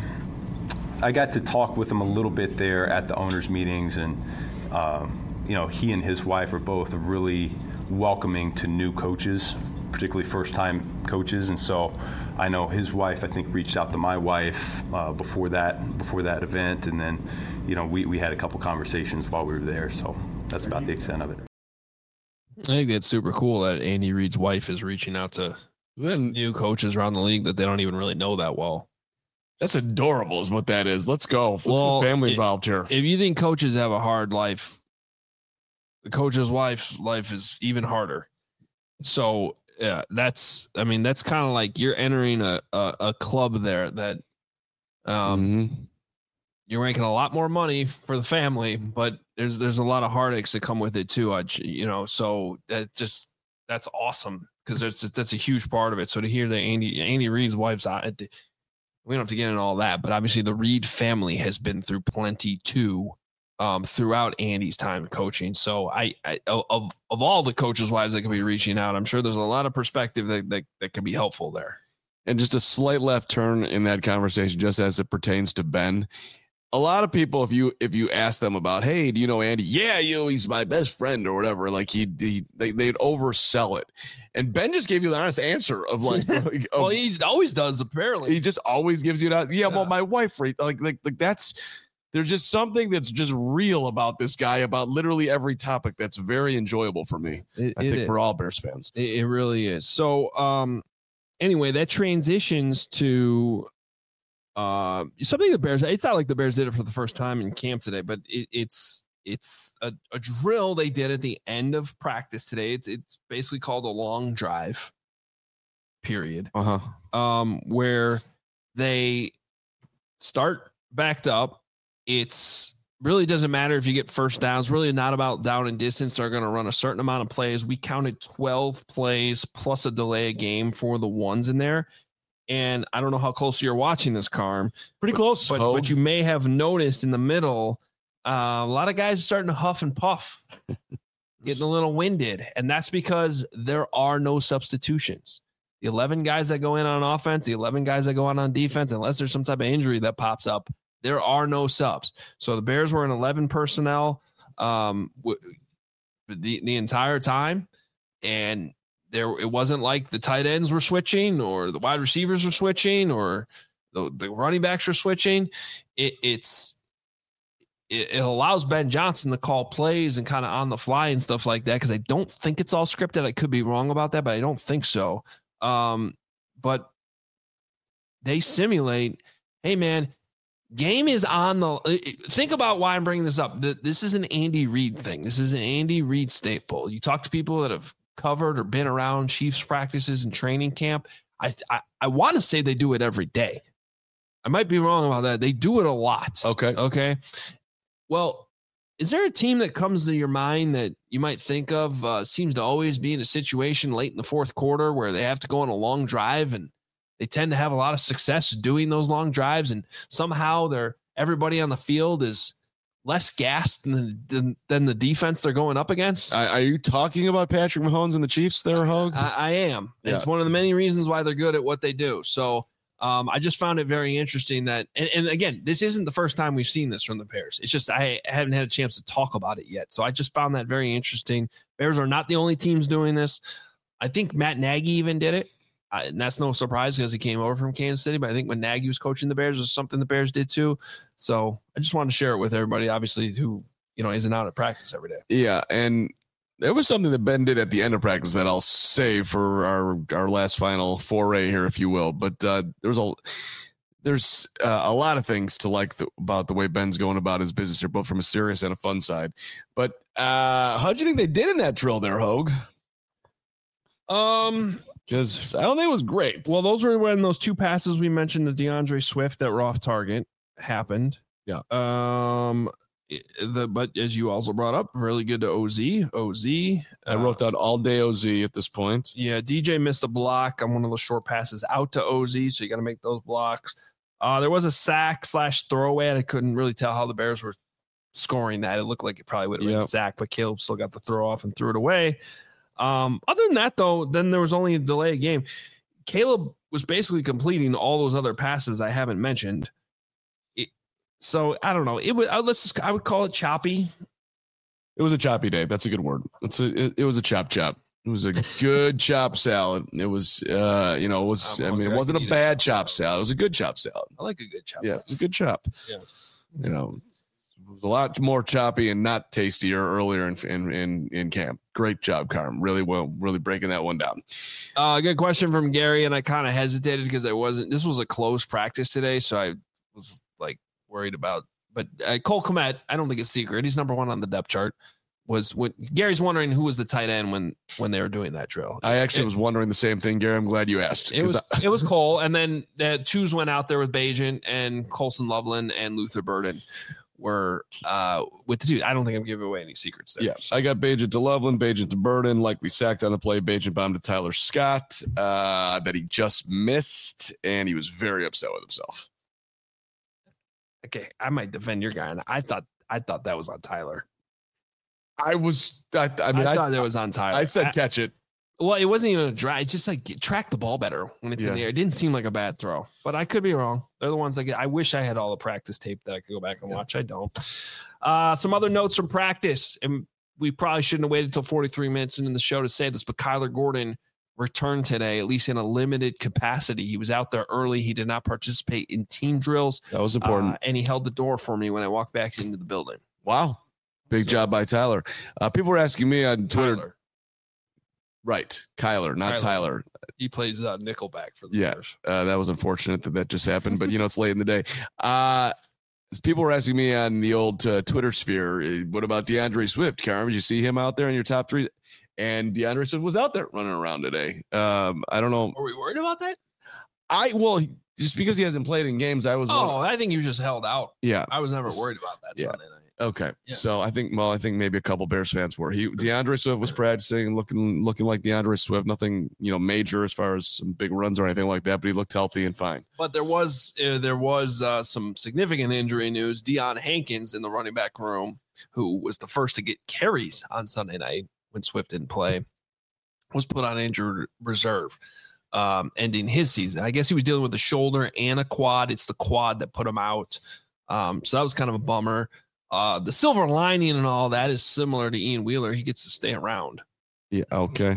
I got to talk with him a little bit there at the owners' meetings, and um, you know, he and his wife are both really welcoming to new coaches, particularly first-time coaches. And so, I know his wife, I think, reached out to my wife uh, before that before that event, and then, you know, we we had a couple conversations while we were there. So that's about the extent of it.
I think that's super cool that Andy Reid's wife is reaching out to new coaches around the league that they don't even really know that well.
That's adorable is what that is. Let's go. Let's
well,
get family
it,
involved here.
If you think coaches have a hard life, the coach's wife's life is even harder. So yeah, that's, I mean, that's kind of like you're entering a, a, a club there that um, mm-hmm. you're making a lot more money for the family, but there's, there's a lot of heartaches that come with it too. I, you know, so that just, that's awesome. Cause there's, that's a huge part of it. So to hear that Andy, Andy Reid's wife's on we don't have to get into all that, but obviously the Reid family has been through plenty too, um, throughout Andy's time coaching. So I, I, of, of all the coaches' wives that could be reaching out, I'm sure there's a lot of perspective that, that, that could be helpful there.
And just a slight left turn in that conversation, just as it pertains to Ben. A lot of people, if you if you ask them about, hey, do you know Andy? Yeah, you know, he's my best friend or whatever. Like he, he they, they'd oversell it. And Ben just gave you the honest answer of like, of,
well, he always does. Apparently,
he just always gives you that. Yeah, yeah. Well, my wife, like, like, like that's. There's just something that's just real about this guy, about literally every topic. That's very enjoyable for me.
It,
I
it
think
is.
for all Bears fans,
it, it really is. So, um, anyway, that transitions to. Uh, something the Bears, it's not like the Bears did it for the first time in camp today, but it, it's it's a, a drill they did at the end of practice today. It's it's basically called a long drive, period.
Uh-huh.
Um, where they start backed up. It's really doesn't matter if you get first downs. Really not about down and distance. They're going to run a certain amount of plays. We counted twelve plays plus a delay a game for the ones in there. And I don't know how close you're watching this, Carm.
Pretty
but,
close.
But, but you may have noticed in the middle, uh, a lot of guys are starting to huff and puff, getting a little winded. And that's because there are no substitutions. The eleven guys that go in on offense, the eleven guys that go on on defense, unless there's some type of injury that pops up, there are no subs. So the Bears were in eleven personnel um, w- the, the entire time. And there, it wasn't like the tight ends were switching or the wide receivers were switching or the, the running backs were switching. It, it's it, it allows Ben Johnson to call plays and kind of on the fly and stuff like that because I don't think it's all scripted. I could be wrong about that, but I don't think so. Um, but they simulate, hey, man, game is on the – think about why I'm bringing this up. This is an Andy Reid thing. This is an Andy Reid staple. You talk to people that have covered or been around Chiefs practices and training camp. I I, I want to say they do it every day. I might be wrong about that. They do it a lot.
Okay.
Okay. Well, is there a team that comes to your mind that you might think of uh, seems to always be in a situation late in the fourth quarter where they have to go on a long drive and they tend to have a lot of success doing those long drives and somehow they're everybody on the field is less gassed than, than, than the defense they're going up against?
Uh, are you talking about Patrick Mahomes and the Chiefs there, Hogue?
I, I am.
Yeah.
It's one of the many reasons why they're good at what they do. So um, I just found it very interesting that, and, and again, this isn't the first time we've seen this from the Bears. It's just I haven't had a chance to talk about it yet. So I just found that very interesting. Bears are not the only teams doing this. I think Matt Nagy even did it. Uh, and that's no surprise because he came over from Kansas City. But I think when Nagy was coaching the Bears, it was something the Bears did too. So I just wanted to share it with everybody, obviously, who, you know, isn't out at practice every day.
Yeah. And There was something that Ben did at the end of practice that I'll save for our, our last final foray here, if you will. But uh, there was a there's uh, a lot of things to like the, about the way Ben's going about his business here, both from a serious and a fun side. But uh, how do you think they did in that drill there, Hogue?
Um,
because I don't think it was great.
Well, those were when those two passes we mentioned to DeAndre Swift that were off target happened.
Yeah.
Um. The but as you also brought up, really good to O Z. O Z.
I wrote down all day O Z at this point.
Yeah, D J missed a block on one of those short passes out to O Z, so you got to make those blocks. Uh, there was a sack slash throwaway, and I couldn't really tell how the Bears were scoring that. It looked like it probably would have been
Yep.
a sack, but Caleb still got the throw off and threw it away. Um, other than that, though, then there was only a delay of game. Caleb was basically completing all those other passes I haven't mentioned. So I don't know. It would. Let's. Just, I would call it choppy.
It was a choppy day. That's a good word. It's a. It, it was a chop chop. It was a good chop salad. It was. Uh, you know, it was.
I'm
I mean, it wasn't a bad chop salad. It was a good chop salad.
I like a good chop.
Yeah, it was a good chop.
Yeah.
You know, it was a lot more choppy and not tastier earlier in in in, in camp. Great job, Carm. Really well. Really breaking that one down.
Uh, good question from Gary, and I kind of hesitated because I wasn't. This was a close practice today, so I was like. Worried about, but uh, Cole Kmet, I don't think it's secret. He's number one on the depth chart. Was when Gary's wondering who was the tight end when when they were doing that drill.
I actually
it,
was wondering the same thing, Gary. I'm glad you asked.
It was
I,
it was Cole, and then the twos went out there with Bagent and Colson Loveland and Luther Burden were uh, with the two. I don't think I'm giving away any secrets there.
Yeah, I got Bagent to Loveland, Bagent to Burden, likely sacked on the play. Bagent bombed to Tyler Scott uh, that he just missed, and he was very upset with himself.
Okay, I might defend your guy, and I thought I thought that was on Tyler.
I was, I, I mean,
I,
I
thought it was on Tyler.
I said
I,
catch it.
Well, it wasn't even a dry. It's just like track the ball better when it's
Yeah.
in the air. It didn't seem like a bad throw, but I could be wrong. They're the ones that get. I wish I had all the practice tape that I could go back and
Yeah.
watch. I don't. Uh, some other notes from practice, and we probably shouldn't have waited until forty-three minutes into the show to say this, but Kyler Gordon returned today, at least in a limited capacity. He was out there early. He did not participate in team drills.
That was important.
Uh, and he held the door for me when I walked back into the building.
Wow. Big
So-
job by Tyler. Uh, people were asking me on Twitter.
Tyler.
Right. Kyler, not
Kyler.
Tyler.
He plays uh, nickelback for the
Yeah.
Bears.
Uh, that was unfortunate that that just happened, but you know, it's late in the day. Uh, people were asking me on the old uh, Twitter sphere, uh, what about DeAndre Swift? Karen, did you see him out there in your top three? And DeAndre Swift was out there running around today. Um, I don't know.
Are we worried about that?
I, well, he- just because he hasn't played in games, I was,
Oh,
wondering-
I think you just held out.
yeah.
I was never worried about that
Yeah.
Sunday night.
Okay.
Yeah.
So I think, well, I think maybe a couple Bears fans were. He DeAndre Swift was practicing, looking looking like DeAndre Swift. Nothing, you know, major as far as some big runs or anything like that. But he looked healthy and fine.
But there was uh, there was uh, some significant injury news. Deion Hankins in the running back room, who was the first to get carries on Sunday night when Swift didn't play, was put on injured reserve, um, ending his season. I guess he was dealing with a shoulder and a quad. It's the quad that put him out. Um, so that was kind of a bummer. Uh, the silver lining and all that is similar to Ian Wheeler. He gets to stay around.
Yeah. Okay.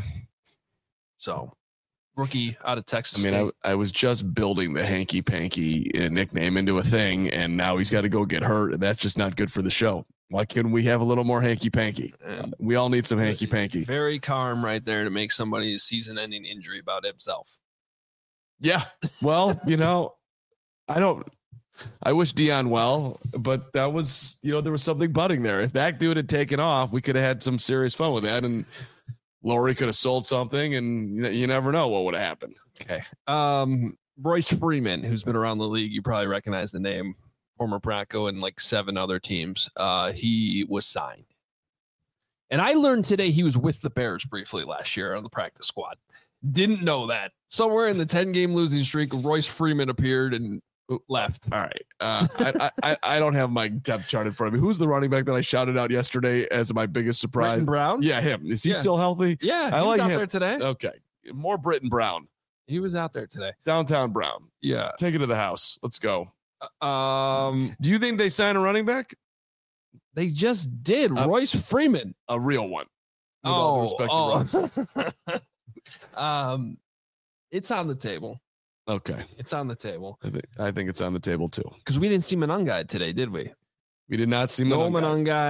So rookie out of Texas.
I mean,
State.
I, I was just building the hanky panky uh, nickname into a thing, and now he's got to go get hurt. That's just not good for the show. Why couldn't we have a little more hanky panky?
And
We all need some hanky panky.
very calm right there to make somebody's season-ending injury about himself.
Yeah. Well, you know, I don't. I wish Deion well, but that was, you know, there was something budding there. If that dude had taken off, we could have had some serious fun with that, and Lowry could have sold something, and you, you never know what would have happened.
Okay. Um, Royce Freeman, who's been around the league, you probably recognize the name, former Bronco and like seven other teams. Uh, he was signed. And I learned today he was with the Bears briefly last year on the practice squad. Didn't know that. Somewhere in the ten-game losing streak, Royce Freeman appeared and left.
All right. Uh, I, I I don't have my depth chart in front of me. Who's the running back that I shouted out yesterday as my biggest surprise?
Britton Brown?
Yeah, him. Is he
Yeah.
still healthy?
Yeah, he
I
was
like
out
him.
there today.
Okay. More Britton Brown.
He was out there today.
Downtown Brown.
Yeah.
Take it to the house. Let's go.
Um,
Do you think they sign a running back?
they just did.
Uh,
Royce Freeman.
A real one. With all due
Oh,
respect to Ron.
oh. um, it's on the table.
Okay.
It's on the table
I think, I think it's on the table too.
because we didn't see Monangai today, did we?
We did not see
No
Monangai.
Monangai.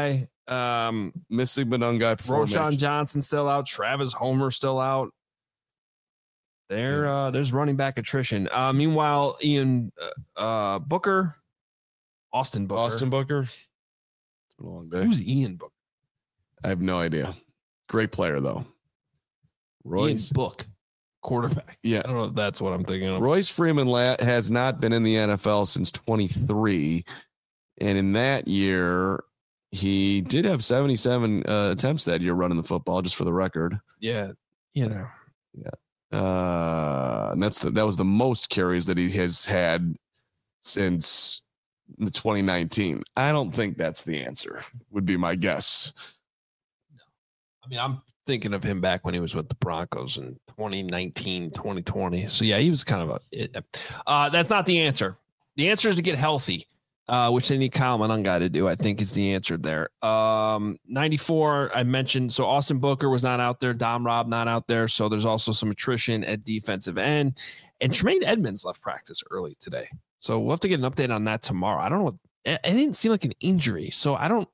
Um,
Missing Monangai.
Roshan Johnson still out. Travis Homer still out. There,
Yeah.
uh, there's running back attrition. Uh, meanwhile, Ian uh, uh, Booker, Austin Booker.
Austin Booker. It's been a long day.
Who's Ian Booker?
I have no idea. Great player though. Royce
Ian Book, quarterback.
Yeah.
I don't know if that's what I'm thinking of.
Royce Freeman la- has not been in the N F L since twenty-three, and in that year, he did have seventy-seven uh, attempts that year running the football. Just for the record,
Yeah, you know.
uh, and that's the, that was the most carries that he has had since the twenty nineteen. I don't think that's the answer. Would be my guess.
I mean, I'm thinking of him back when he was with the Broncos in twenty nineteen, twenty twenty. So yeah, he was kind of a. It, uh, that's not the answer. The answer is to get healthy, uh, which they need Kyle Monangai to do. I think is the answer there. Um, ninety-four. I mentioned so Austin Booker was not out there. Dom Robb not out there. So there's also some attrition at defensive end, and Tremaine Edmonds left practice early today. So we'll have to get an update on that tomorrow. I don't know. It, it didn't seem like an injury, so I don't.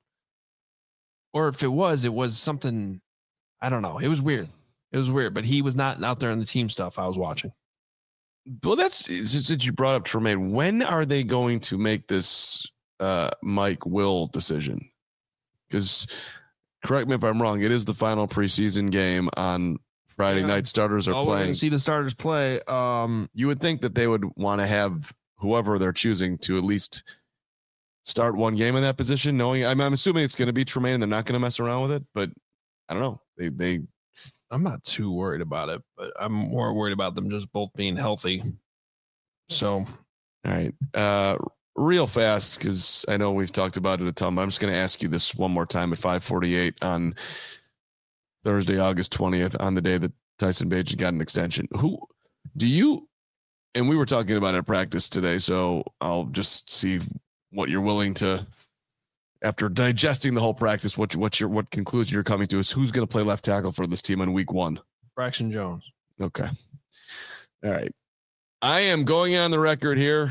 Or if it was, it was something. I don't know. It was weird. It was weird, but he was not out there in the team stuff I was watching.
Well, that's since you brought up Tremaine. When are they going to make this uh, Mike Will decision? Because correct me if I'm wrong. It is the final preseason game on Friday
Yeah.
night. Starters are
Oh, we're
playing.
gonna see the starters play. Um,
You would think that they would want to have whoever they're choosing to at least start one game in that position, knowing I'm, I'm assuming it's going to be Tremaine and they're not going to mess around with it, but I don't know. They, they,
I'm not too worried about it, but I'm more worried about them just both being healthy. So,
all right. Uh, real fast, because I know we've talked about it a ton, but I'm just going to ask you this one more time at five forty-eight on Thursday, August twentieth, on the day that Tyson Bagent got an extension. Who do you, and we were talking about it at practice today, so I'll just see what you're willing to, after digesting the whole practice, what what your what conclusion you're coming to is who's going to play left tackle for this team in week one.
Braxton Jones.
Okay. All right. I am going on the record here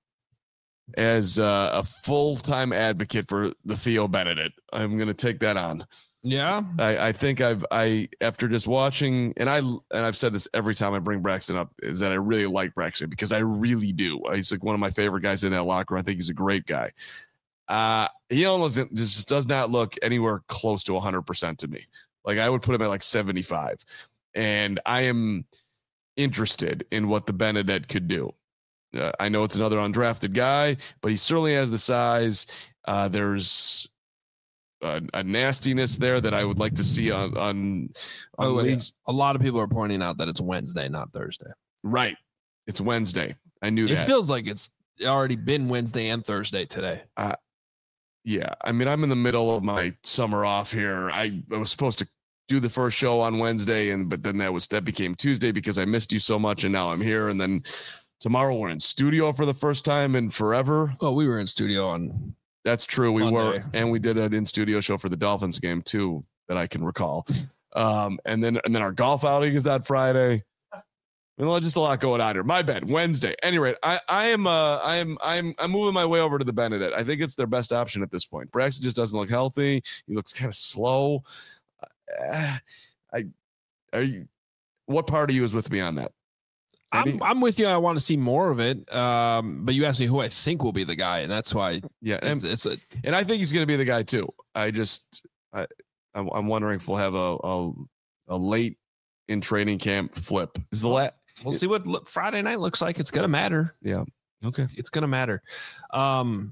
as uh, a full-time advocate for the Theo Benedict. I'm going to take that on.
Yeah.
I, I think I've I after just watching, and I and I've said this every time I bring Braxton up, is that I really like Braxton because I really do. He's like one of my favorite guys in that locker room. I think he's a great guy. Uh, he almost just does not look anywhere close to one hundred percent to me. Like I would put him at like seventy-five, and I am interested in what the Benedict could do. Uh, I know it's another undrafted guy, but he certainly has the size. Uh, there's a, a nastiness there that I would like to see on on,
By the
on
way,
leagues.
a lot of people are pointing out that it's Wednesday, not Thursday.
Right. It's Wednesday. I knew
It
that.
feels like it's already been Wednesday and Thursday today.
Yeah. I mean, I'm in the middle of my summer off here. I, I was supposed to do the first show on Wednesday, and but then that was that became Tuesday because I missed you so much, and now I'm here. And then tomorrow we're in studio for the first time in forever.
Well, we were in studio on.
That's true. We
Monday.
were, and we did an in studio show for the Dolphins game too that I can recall. Um, and then and then our golf outing is that Friday. Well, just a lot going on here. My bad. Wednesday. Anyway, I I am uh I am I'm I'm moving my way over to the Benedict. I think it's their best option at this point. Braxton just doesn't look healthy. He looks kind of slow. Uh, I are you? What part of you is with me on that? Any?
I'm I'm with you. I want to see more of it. Um, but you asked me who I think will be the guy, and that's why
Yeah, and,
it's, it's a
and I think he's going to be the guy too. I just I I'm, I'm wondering if we'll have a a, a late in training camp flip. Is the lat?
we'll see what look, Friday night looks like. It's gonna matter.
Yeah. Okay.
It's gonna matter. Um,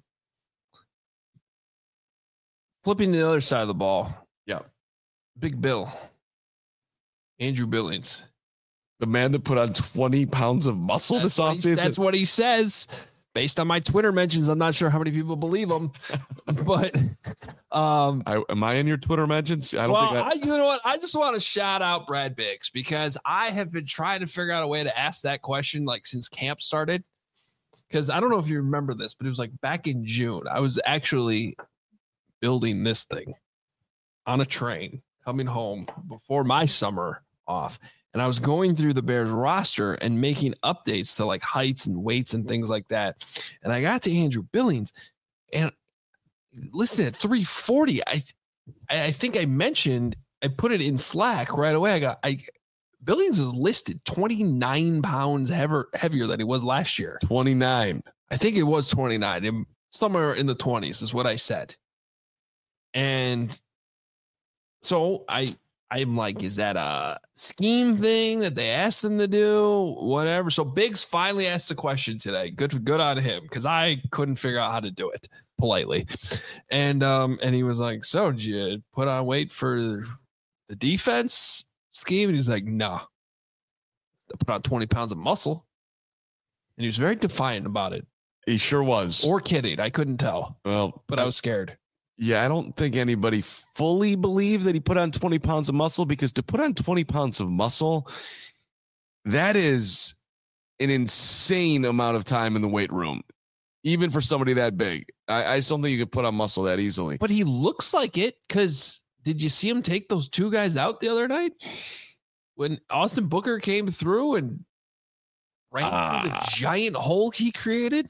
flipping to the other side of the ball.
Yeah.
Big Bill, Andrew Billings.
The man that put on twenty pounds of muscle
That's
this
what, he,
offseason.
that's what he says. Based on my Twitter mentions, I'm not sure how many people believe him, but um,
I, am I in your Twitter mentions? I don't
well,
think I,
I, you know what? I just want to shout out Brad Biggs because I have been trying to figure out a way to ask that question like since camp started. Because I don't know if you remember this, but it was like back in June. I was actually building this thing on a train coming home before my summer off. And I was going through the Bears roster and making updates to like heights and weights and things like that. And I got to Andrew Billings and listen at three forty. I I, I think I mentioned, I put it in Slack right away. I got, I, Billings is listed twenty-nine pounds heavier, heavier than he was last year.
twenty-nine.
I think it was twenty-nine. Somewhere in the twenties is what I said. And so I, I'm like, is that a scheme thing that they asked him to do? Whatever. So Biggs finally asked the question today. Good, good on him, because I couldn't figure out how to do it politely. And um, and he was like, so did you put on weight for the defense scheme? And he's like, no. I put on twenty pounds of muscle. And he was very defiant about it.
He sure was.
Or kidding. I couldn't tell.
Well,
but I was scared.
Yeah, I don't think anybody fully believed that he put on twenty pounds of muscle, because to put on twenty pounds of muscle, that is an insane amount of time in the weight room, even for somebody that big. I, I just don't think you could put on muscle that easily.
But he looks like it, because did you see him take those two guys out the other night? When Austin Booker came through and ran uh, through the giant hole he created?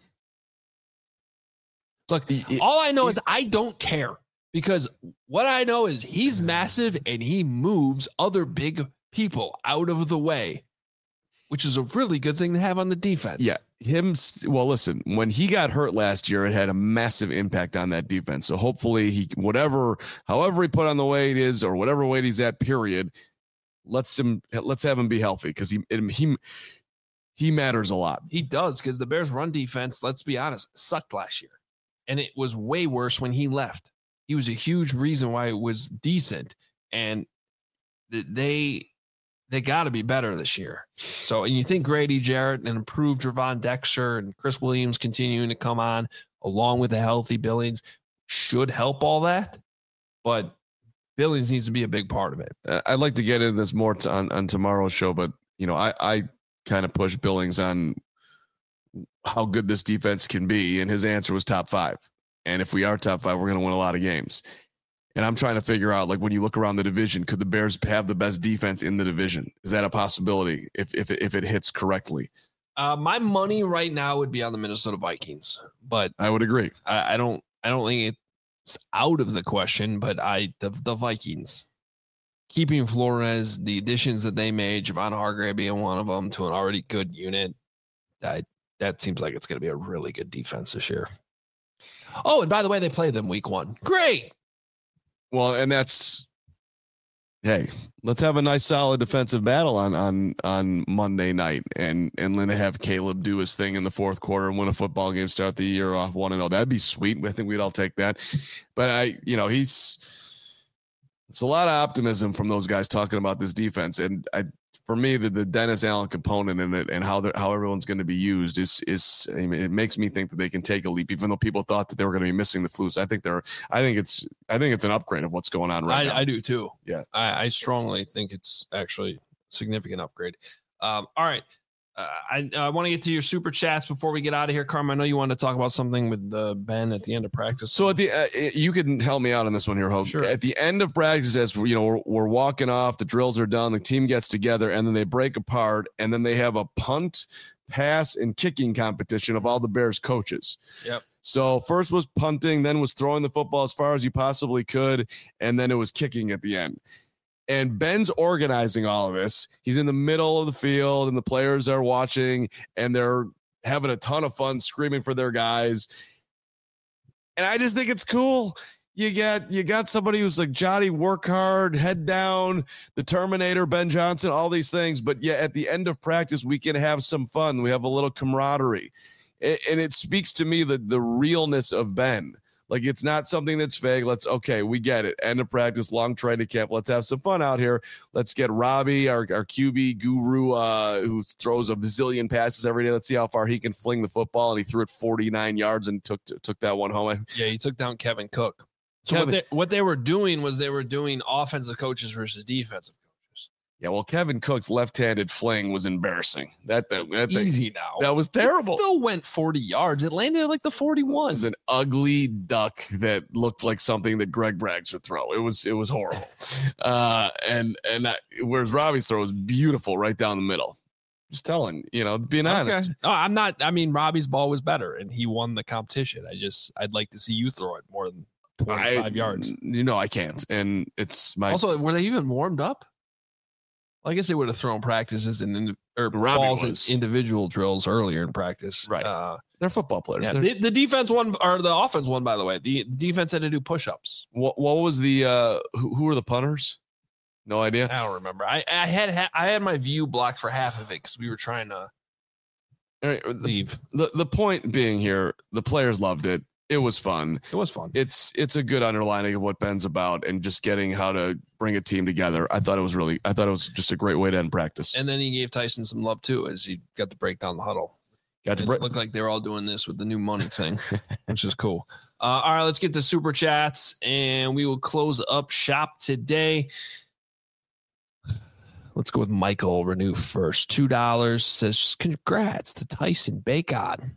Look, it, all I know it, is I don't care, because what I know is he's massive and he moves other big people out of the way, which is a really good thing to have on the defense.
Yeah. Him. Well, listen, when he got hurt last year, it had a massive impact on that defense. So hopefully he, whatever, however he put on the weight is, or whatever weight he's at, period, let's him, let's have him be healthy, because he, it, he, he matters a lot.
He does, because the Bears' run defense, let's be honest, sucked last year. And it was way worse when he left. He was a huge reason why it was decent. And they they got to be better this year. So, and you think Grady Jarrett and improved Javon Dexter and Chris Williams continuing to come on, along with a healthy Billings, should help all that. But Billings needs to be a big part of it.
Uh, I'd like to get into this more t- on, on tomorrow's show, but, you know, I, I kind of push Billings on how good this defense can be, and his answer was top five. And if we are top five, we're going to win a lot of games. And I'm trying to figure out, like, when you look around the division, could the Bears have the best defense in the division? Is that a possibility if if if it hits correctly?
Uh, my money right now would be on the Minnesota Vikings, but
I would agree.
I, I don't I don't think it's out of the question, but I the the Vikings. Keeping Flores, the additions that they made, Javon Hargrave being one of them, to an already good unit, I that seems like it's going to be a really good defense this year. Oh, and by the way, they play them week one. Great.
Well, and that's, hey, let's have a nice, solid defensive battle on on on Monday night, and and then have Caleb do his thing in the fourth quarter and win a football game, start the year off one and oh. That'd be sweet. I think we'd all take that. But I, you know, he's it's a lot of optimism from those guys talking about this defense, and I. For me, the, the Dennis Allen component in it and how how everyone's going to be used is is I mean, it makes me think that they can take a leap, even though people thought that they were going to be missing the Flus. I think they're I think it's I think it's an upgrade of what's going on right
I,
now.
I do too.
Yeah,
I, I strongly think it's actually a significant upgrade. Um, all right, uh, I I want to get to your super chats before we get out of here, Carm. I know you wanted to talk about something with uh, Ben at the end of practice.
So at the uh, you can help me out on this one here, Hope.
Sure.
At the end of practice, as you know, we're, we're walking off, the drills are done, the team gets together, and then they break apart, and then they have a punt, pass, and kicking competition of all the Bears coaches.
Yep.
So first was punting, then was throwing the football as far as you possibly could, and then it was kicking at the end. And Ben's organizing all of this. He's in the middle of the field, and the players are watching, and they're having a ton of fun screaming for their guys. And I just think it's cool. You got you got somebody who's like Johnny, work hard, head down, the Terminator, Ben Johnson, all these things. But yeah, at the end of practice, we can have some fun. We have a little camaraderie. And it speaks to me the, the realness of Ben. Like, it's not something that's vague. Let's, okay, we get it. End of practice, long training camp. Let's have some fun out here. Let's get Robbie, our, our Q B guru, uh, who throws a bazillion passes every day. Let's see how far he can fling the football. And he threw it forty-nine yards and took took that one home.
Yeah, he took down Kevin Cook. So
Kevin,
what, they, what they were doing was they were doing offensive coaches versus defensive coaches.
Yeah, well, Kevin Cook's left-handed fling was embarrassing. That that, that
easy
thing,
now.
That was terrible.
It still went forty yards. It landed at like the forty-one.
It was an ugly duck that looked like something that Greg Braggs would throw. It was it was horrible. uh, and and I, whereas Robbie's throw was beautiful right down the middle. Just telling, you know, being honest.
Okay. Oh, I'm not. I mean, Robbie's ball was better, and he won the competition. I just, I'd like to see you throw it more than twenty-five
I,
yards.
You know, I can't. And it's my
Also, were they even warmed up? Well, I guess they would have thrown practices and or
Robbie
balls in
was.
individual drills earlier in practice.
Right.
Uh,
they're football players.
yeah,
They're-
the, the defense won, or the offense won, by the way. The, the defense had to do push-ups.
what, what was the uh who, who were the punters? No idea.
I don't remember. I, I had I had my view blocked for half of it because we were trying to
All right, the,
leave.
the the point being here, the players loved it. It was fun.
It was fun.
It's it's a good underlining of what Ben's about and just getting how to bring a team together. I thought it was really I thought it was just a great way to end practice.
And then he gave Tyson some love too, as he got to break down the huddle.
Got to
It
break.
looked like they were all doing this with the new money thing, which is cool. Uh, all right, let's get to super chats, and we will close up shop today. Let's go with Michael Renew first. Two dollars says, "Congrats to Tyson Bacon."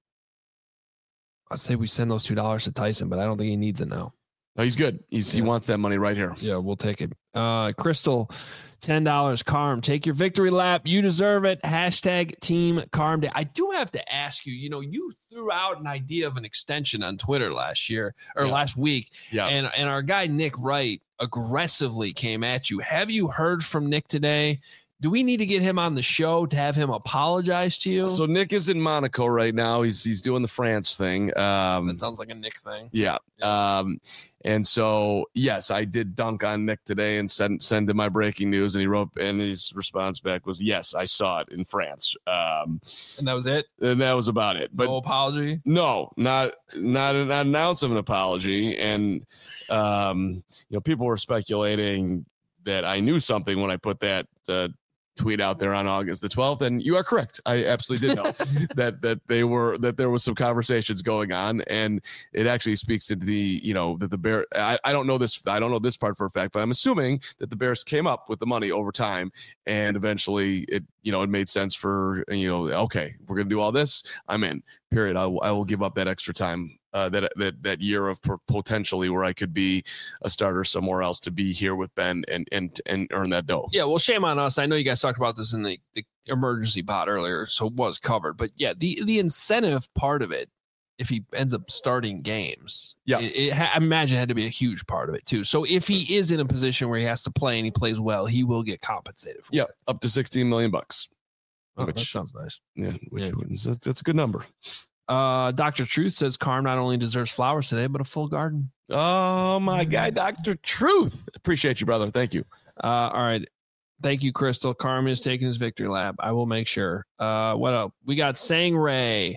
I'd say we send those two dollars to Tyson, but I don't think he needs it now.
No, he's good. He's he
Yeah.
wants that money right here.
Yeah, we'll take it. Uh, Crystal, ten dollars. Carm, take your victory lap. You deserve it. Hashtag Team Carm Day. I do have to ask you, you know, you threw out an idea of an extension on Twitter last year or
Yeah.
last week.
Yeah.
And, and our guy, Nick Wright, aggressively came at you. Have you heard from Nick today? Do we need to get him on the show to have him apologize to you?
So Nick is in Monaco right now. He's he's doing the France thing. Um,
that sounds like a Nick thing.
yeah. Um, and so yes, I did dunk on Nick today and send send him my breaking news, and he wrote, and his response back was, "Yes, I saw it in France." Um,
And that was it?
and that was about it. But
no apology?
no, not not not an ounce of an apology. And um, you know, people were speculating that I knew something when I put that uh, tweet out there on August the twelfth, and you are correct. I absolutely did know that that they were that there was some conversations going on, and it actually speaks to the you know that the Bear. I, I don't know this. I don't know this part for a fact, but I'm assuming that the Bears came up with the money over time, and eventually it you know it made sense for you know okay, we're gonna do all this. I'm in. Period. I, I will give up that extra time. Uh, that that that year of potentially where I could be a starter somewhere else to be here with Ben and and and earn that dough.
Yeah, well, shame on us. I know you guys talked about this in the, the emergency pod earlier, so it was covered. But yeah, the the incentive part of it, if he ends up starting games,
Yeah.
it, it ha- I imagine had to be a huge part of it too. So if he is in a position where he has to play and he plays well, he will get compensated for
Yeah,
it.
up to sixteen million bucks.
Oh, that
which-
sounds nice.
Yeah, which
Yeah.
is that's a good number.
Uh, Doctor Truth says Carm not only deserves flowers today, but a full garden.
Oh my guy, Doctor Truth. Appreciate you, brother. Thank you.
Uh, all right. Thank you, Crystal. Carm is taking his victory lap. I will make sure. Uh, what else? We got Sang Ray.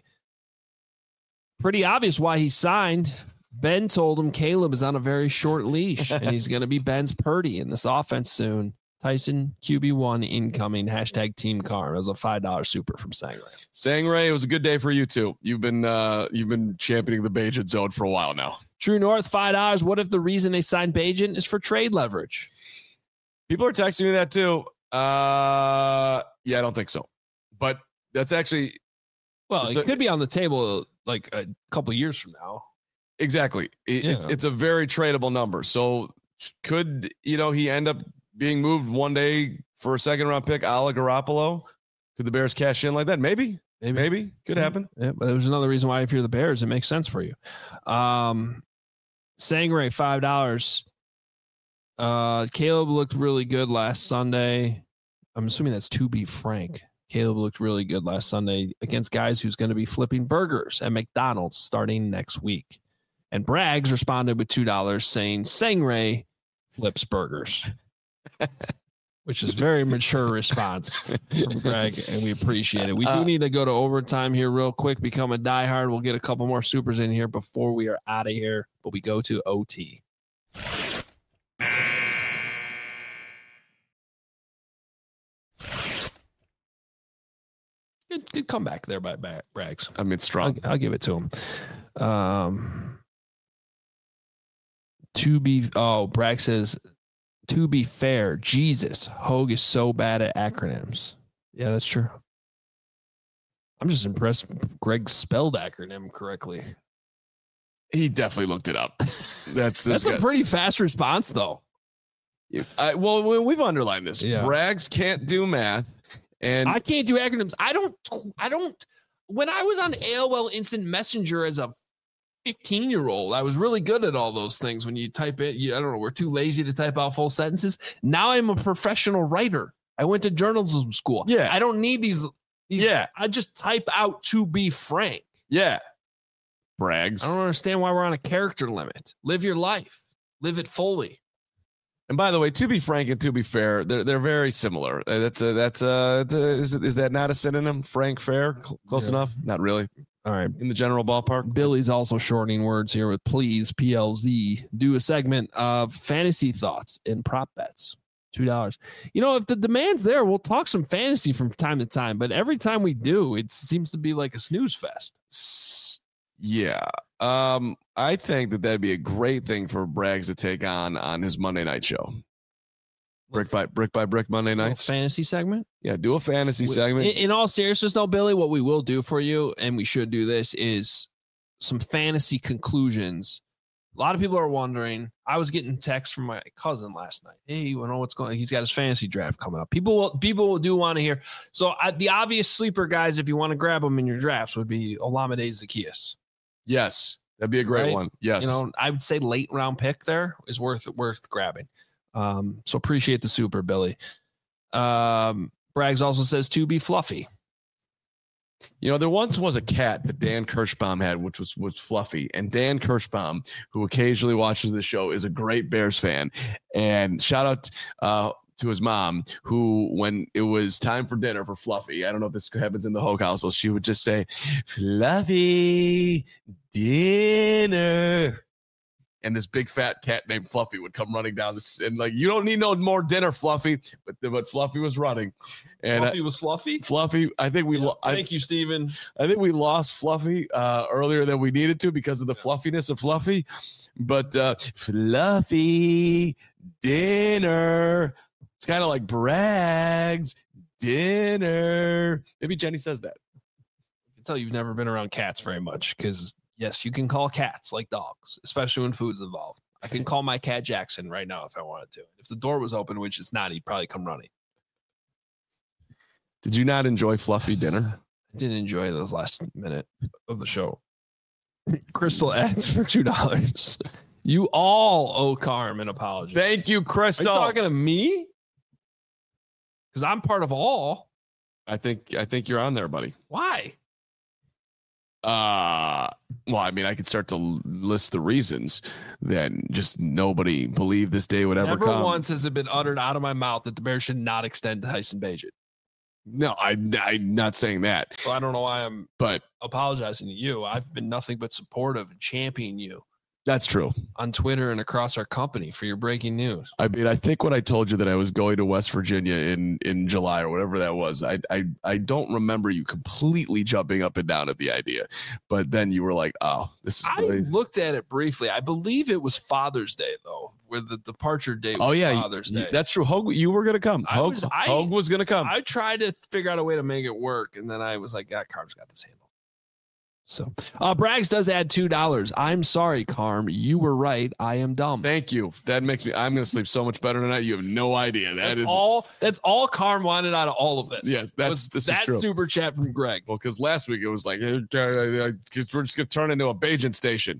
Pretty obvious why he signed. Ben told him Caleb is on a very short leash and he's going to be Ben's Purdy in this offense soon. Tyson Q B one incoming. Hashtag Team Carm. That was a five dollar super from Sang Ray.
Sang Ray, it was a good day for you too. You've been uh you've been championing the Bajan zone for a while now.
True North, five dollars. What if the reason they signed Bajan is for trade leverage?
People are texting me that too. Uh yeah, I don't think so. But that's actually
Well,
It's
it
a-
could be on the table like a couple years from now.
exactly. It, it's
Yeah.
it's a very tradable number. So could you know he end up being moved one day for a second round pick, a la Garoppolo? Could the Bears cash in like that? Maybe.
Maybe.
Maybe. Could happen.
Yeah, but there's another reason why if you're the Bears, it makes sense for you. Um, Sangray, five dollars. Uh, Caleb looked really good last Sunday. I'm assuming that's to be frank. Caleb looked really good last Sunday against guys who's going to be flipping burgers at McDonald's starting next week. And Braggs responded with two dollars saying Sangray flips burgers. Which is a very mature response from Greg, and we appreciate it. We do
Uh,
need to go to overtime here real quick, become a diehard. We'll get a couple more supers in here before we are out of here, but we go to O T. Good, good comeback there by Ba- Braggs.
I mean, it's strong.
I'll, I'll give it to him. Um, to be, oh, Bragg says, to be fair, Jesus, Hogue is so bad at acronyms. Yeah, that's true. I'm just impressed Greg spelled acronym correctly.
He definitely looked it up. That's
That's
that's
a pretty fast response, though.
I, well, we- we've underlined this.
Yeah.
Braggs can't do math, and
I can't do acronyms. I don't, I don't, when I was on A O L Instant Messenger as a fifteen year old. I was really good at all those things. When you type it, you, I don't know, we're too lazy to type out full sentences. Now I'm a professional writer. I went to journalism school.
Yeah.
I don't need these. these
Yeah.
I just type out to be frank.
Yeah. Brags.
I don't understand why we're on a character limit. Live your life. Live it fully.
And by the way, to be frank and to be fair, they're they're very similar. Uh, that's a that's a is is that not a synonym? Frank, fair, Cl- close
Yeah.
enough? Not really.
All right.
In the general ballpark.
Billy's also shortening words here with please, P L Z. Do a segment of fantasy thoughts and prop bets. two dollars. You know, if the demand's there, we'll talk some fantasy from time to time. But every time we do, it seems to be like a snooze fest.
Yeah. Um, I think that that'd be a great thing for Braggs to take on on his Monday night show. Brick by brick by brick Monday nights.
Fantasy segment.
Yeah, do a fantasy segment.
In, in all seriousness, though, Billy, what we will do for you, and we should do this, is some fantasy conclusions. A lot of people are wondering. I was getting texts from my cousin last night. Hey, you know what's going on? He's got his fantasy draft coming up. People will, people do want to hear. So I, the obvious sleeper guys, if you want to grab them in your drafts, would be Olamide Zaccheaus.
Yes, that'd be a great
Right?
one. Yes.
You know, I would say late round pick there is worth worth grabbing. Um, so appreciate the super, Billy. Um, Braggs also says to be fluffy.
You know, there once was a cat that Dan Kirschbaum had, which was was Fluffy. And Dan Kirschbaum, who occasionally watches the show, is a great Bears fan. And shout out uh, to his mom, who, when it was time for dinner for Fluffy, I don't know if this happens in the Hogue household, she would just say, Fluffy, dinner. And this big fat cat named Fluffy would come running down this, and like, you don't need no more dinner, Fluffy. But but Fluffy was running, and
Fluffy
uh,
was fluffy.
Fluffy. I think we.
Yeah,
Lo- I,
thank you, Steven.
I think we lost Fluffy uh, earlier than we needed to because of the fluffiness of Fluffy. But uh, Fluffy dinner. It's kind of like Braggs dinner. Maybe Jenny says that.
I can tell you've never been around cats very much because, yes, you can call cats like dogs, especially when food's involved. I can call my cat Jackson right now if I wanted to. If the door was open, which it's not, he'd probably come running.
Did you not enjoy Fluffy dinner?
I didn't enjoy those last minute of the show. Crystal adds for two dollars. You all owe Carm an apology.
Thank you,
Are
Crystal.
you talking to me? Because I'm part of all.
I think I think you're on there, buddy.
Why?
Uh, well, I mean, I could start to l- list the reasons that just nobody believed this day would ever
Never
come.
once has it been uttered out of my mouth that the Bears should not extend Tyson Bagent.
No, I, I'm not saying that,
So I don't know why I'm
but
apologizing to you. I've been nothing but supportive and championing you
that's true.
on Twitter and across our company for your breaking news.
I mean, I think when I told you that I was going to West Virginia in, in July or whatever that was, I, I I don't remember you completely jumping up and down at the idea, but then you were like, "Oh, this is."
I
really-
looked at it briefly. I believe it was Father's Day though, where the departure date was
oh yeah,
Father's
you-
Day.
that's true. Hogue, you were gonna come.
I
Hogue,
was- I-
Hogue was gonna come.
I tried to figure out a way to make it work, and then I was like, "God, Carm's got this handle." So, uh, Braggs does add two dollars. I'm sorry, Carm. You were right. I am dumb.
Thank you. That makes me. I'm gonna sleep so much better tonight. You have no idea. That
That's
is
all. That's all Carm wanted out of all of this.
Yes, that's
was
this
that
is true.
super chat from Greg.
Well, because last week it was like uh, uh, uh, we're just gonna turn into a Bajan station.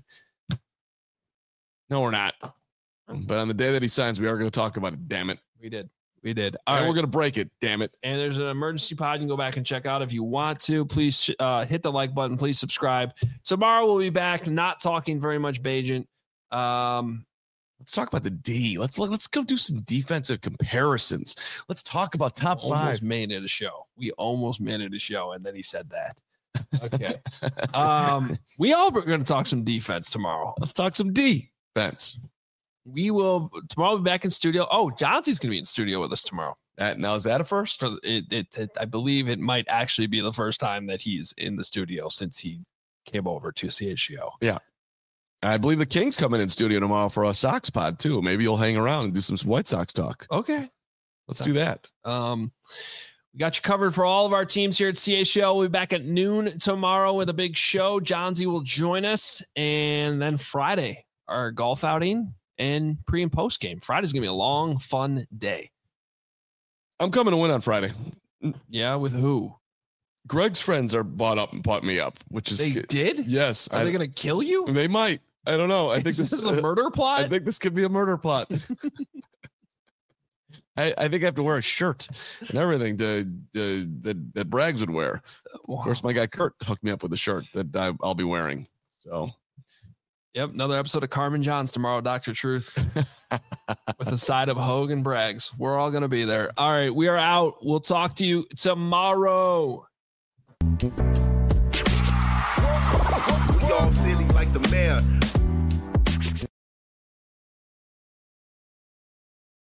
No, we're not. But on the day that he signs, we are going to talk about it. Damn it!
We did. We did.
All
All
right,
right.
we're going to break it. Damn it!
And there's an emergency pod you can go back and check out if you want to. Please uh, hit the like button. Please subscribe. Tomorrow we'll be back, not talking very much Bagent. Um,
Let's talk about the D. Let's look. Let's go do some defensive comparisons. Let's talk about top
almost
five.
made it a show. We almost made it a show, and then he said that. Okay. um, we all are going to talk some defense tomorrow.
Let's talk some defense.
We will tomorrow. We'll be back in studio. Oh, Johnson's going to be in studio with us tomorrow.
That, now is that a first?
For it, it, it, I believe it might actually be the first time that he's in the studio since he came over to C H G O.
Yeah. I believe the Kings coming in studio tomorrow for a Sox pod too. Maybe you'll hang around and do some White Sox talk.
Okay.
Let's do that.
Um, we got you covered for all of our teams here at C H L. We'll be back at noon tomorrow with a big show. Johnsy will join us. And then Friday, our golf outing and pre and post game. Friday's going to be a long, fun day.
I'm coming to win on Friday.
Yeah, with who?
Greg's friends are bought up and bought me up, which is
They did?
Yes.
Are
I,
they going to kill you?
They might. I don't know. I think
is
this,
this is a murder plot.
I think this could be a murder plot. I, I think I have to wear a shirt and everything to, to that, that Braggs would wear.
Wow.
Of course, my guy Kurt hooked me up with a shirt that I, I'll be wearing. So,
yep, another episode of Carmen Johns tomorrow, Doctor Truth, with a side of Hogue and Braggs. We're all going to be there. All right, we are out. We'll talk to you tomorrow.
Y'all silly like the mayor.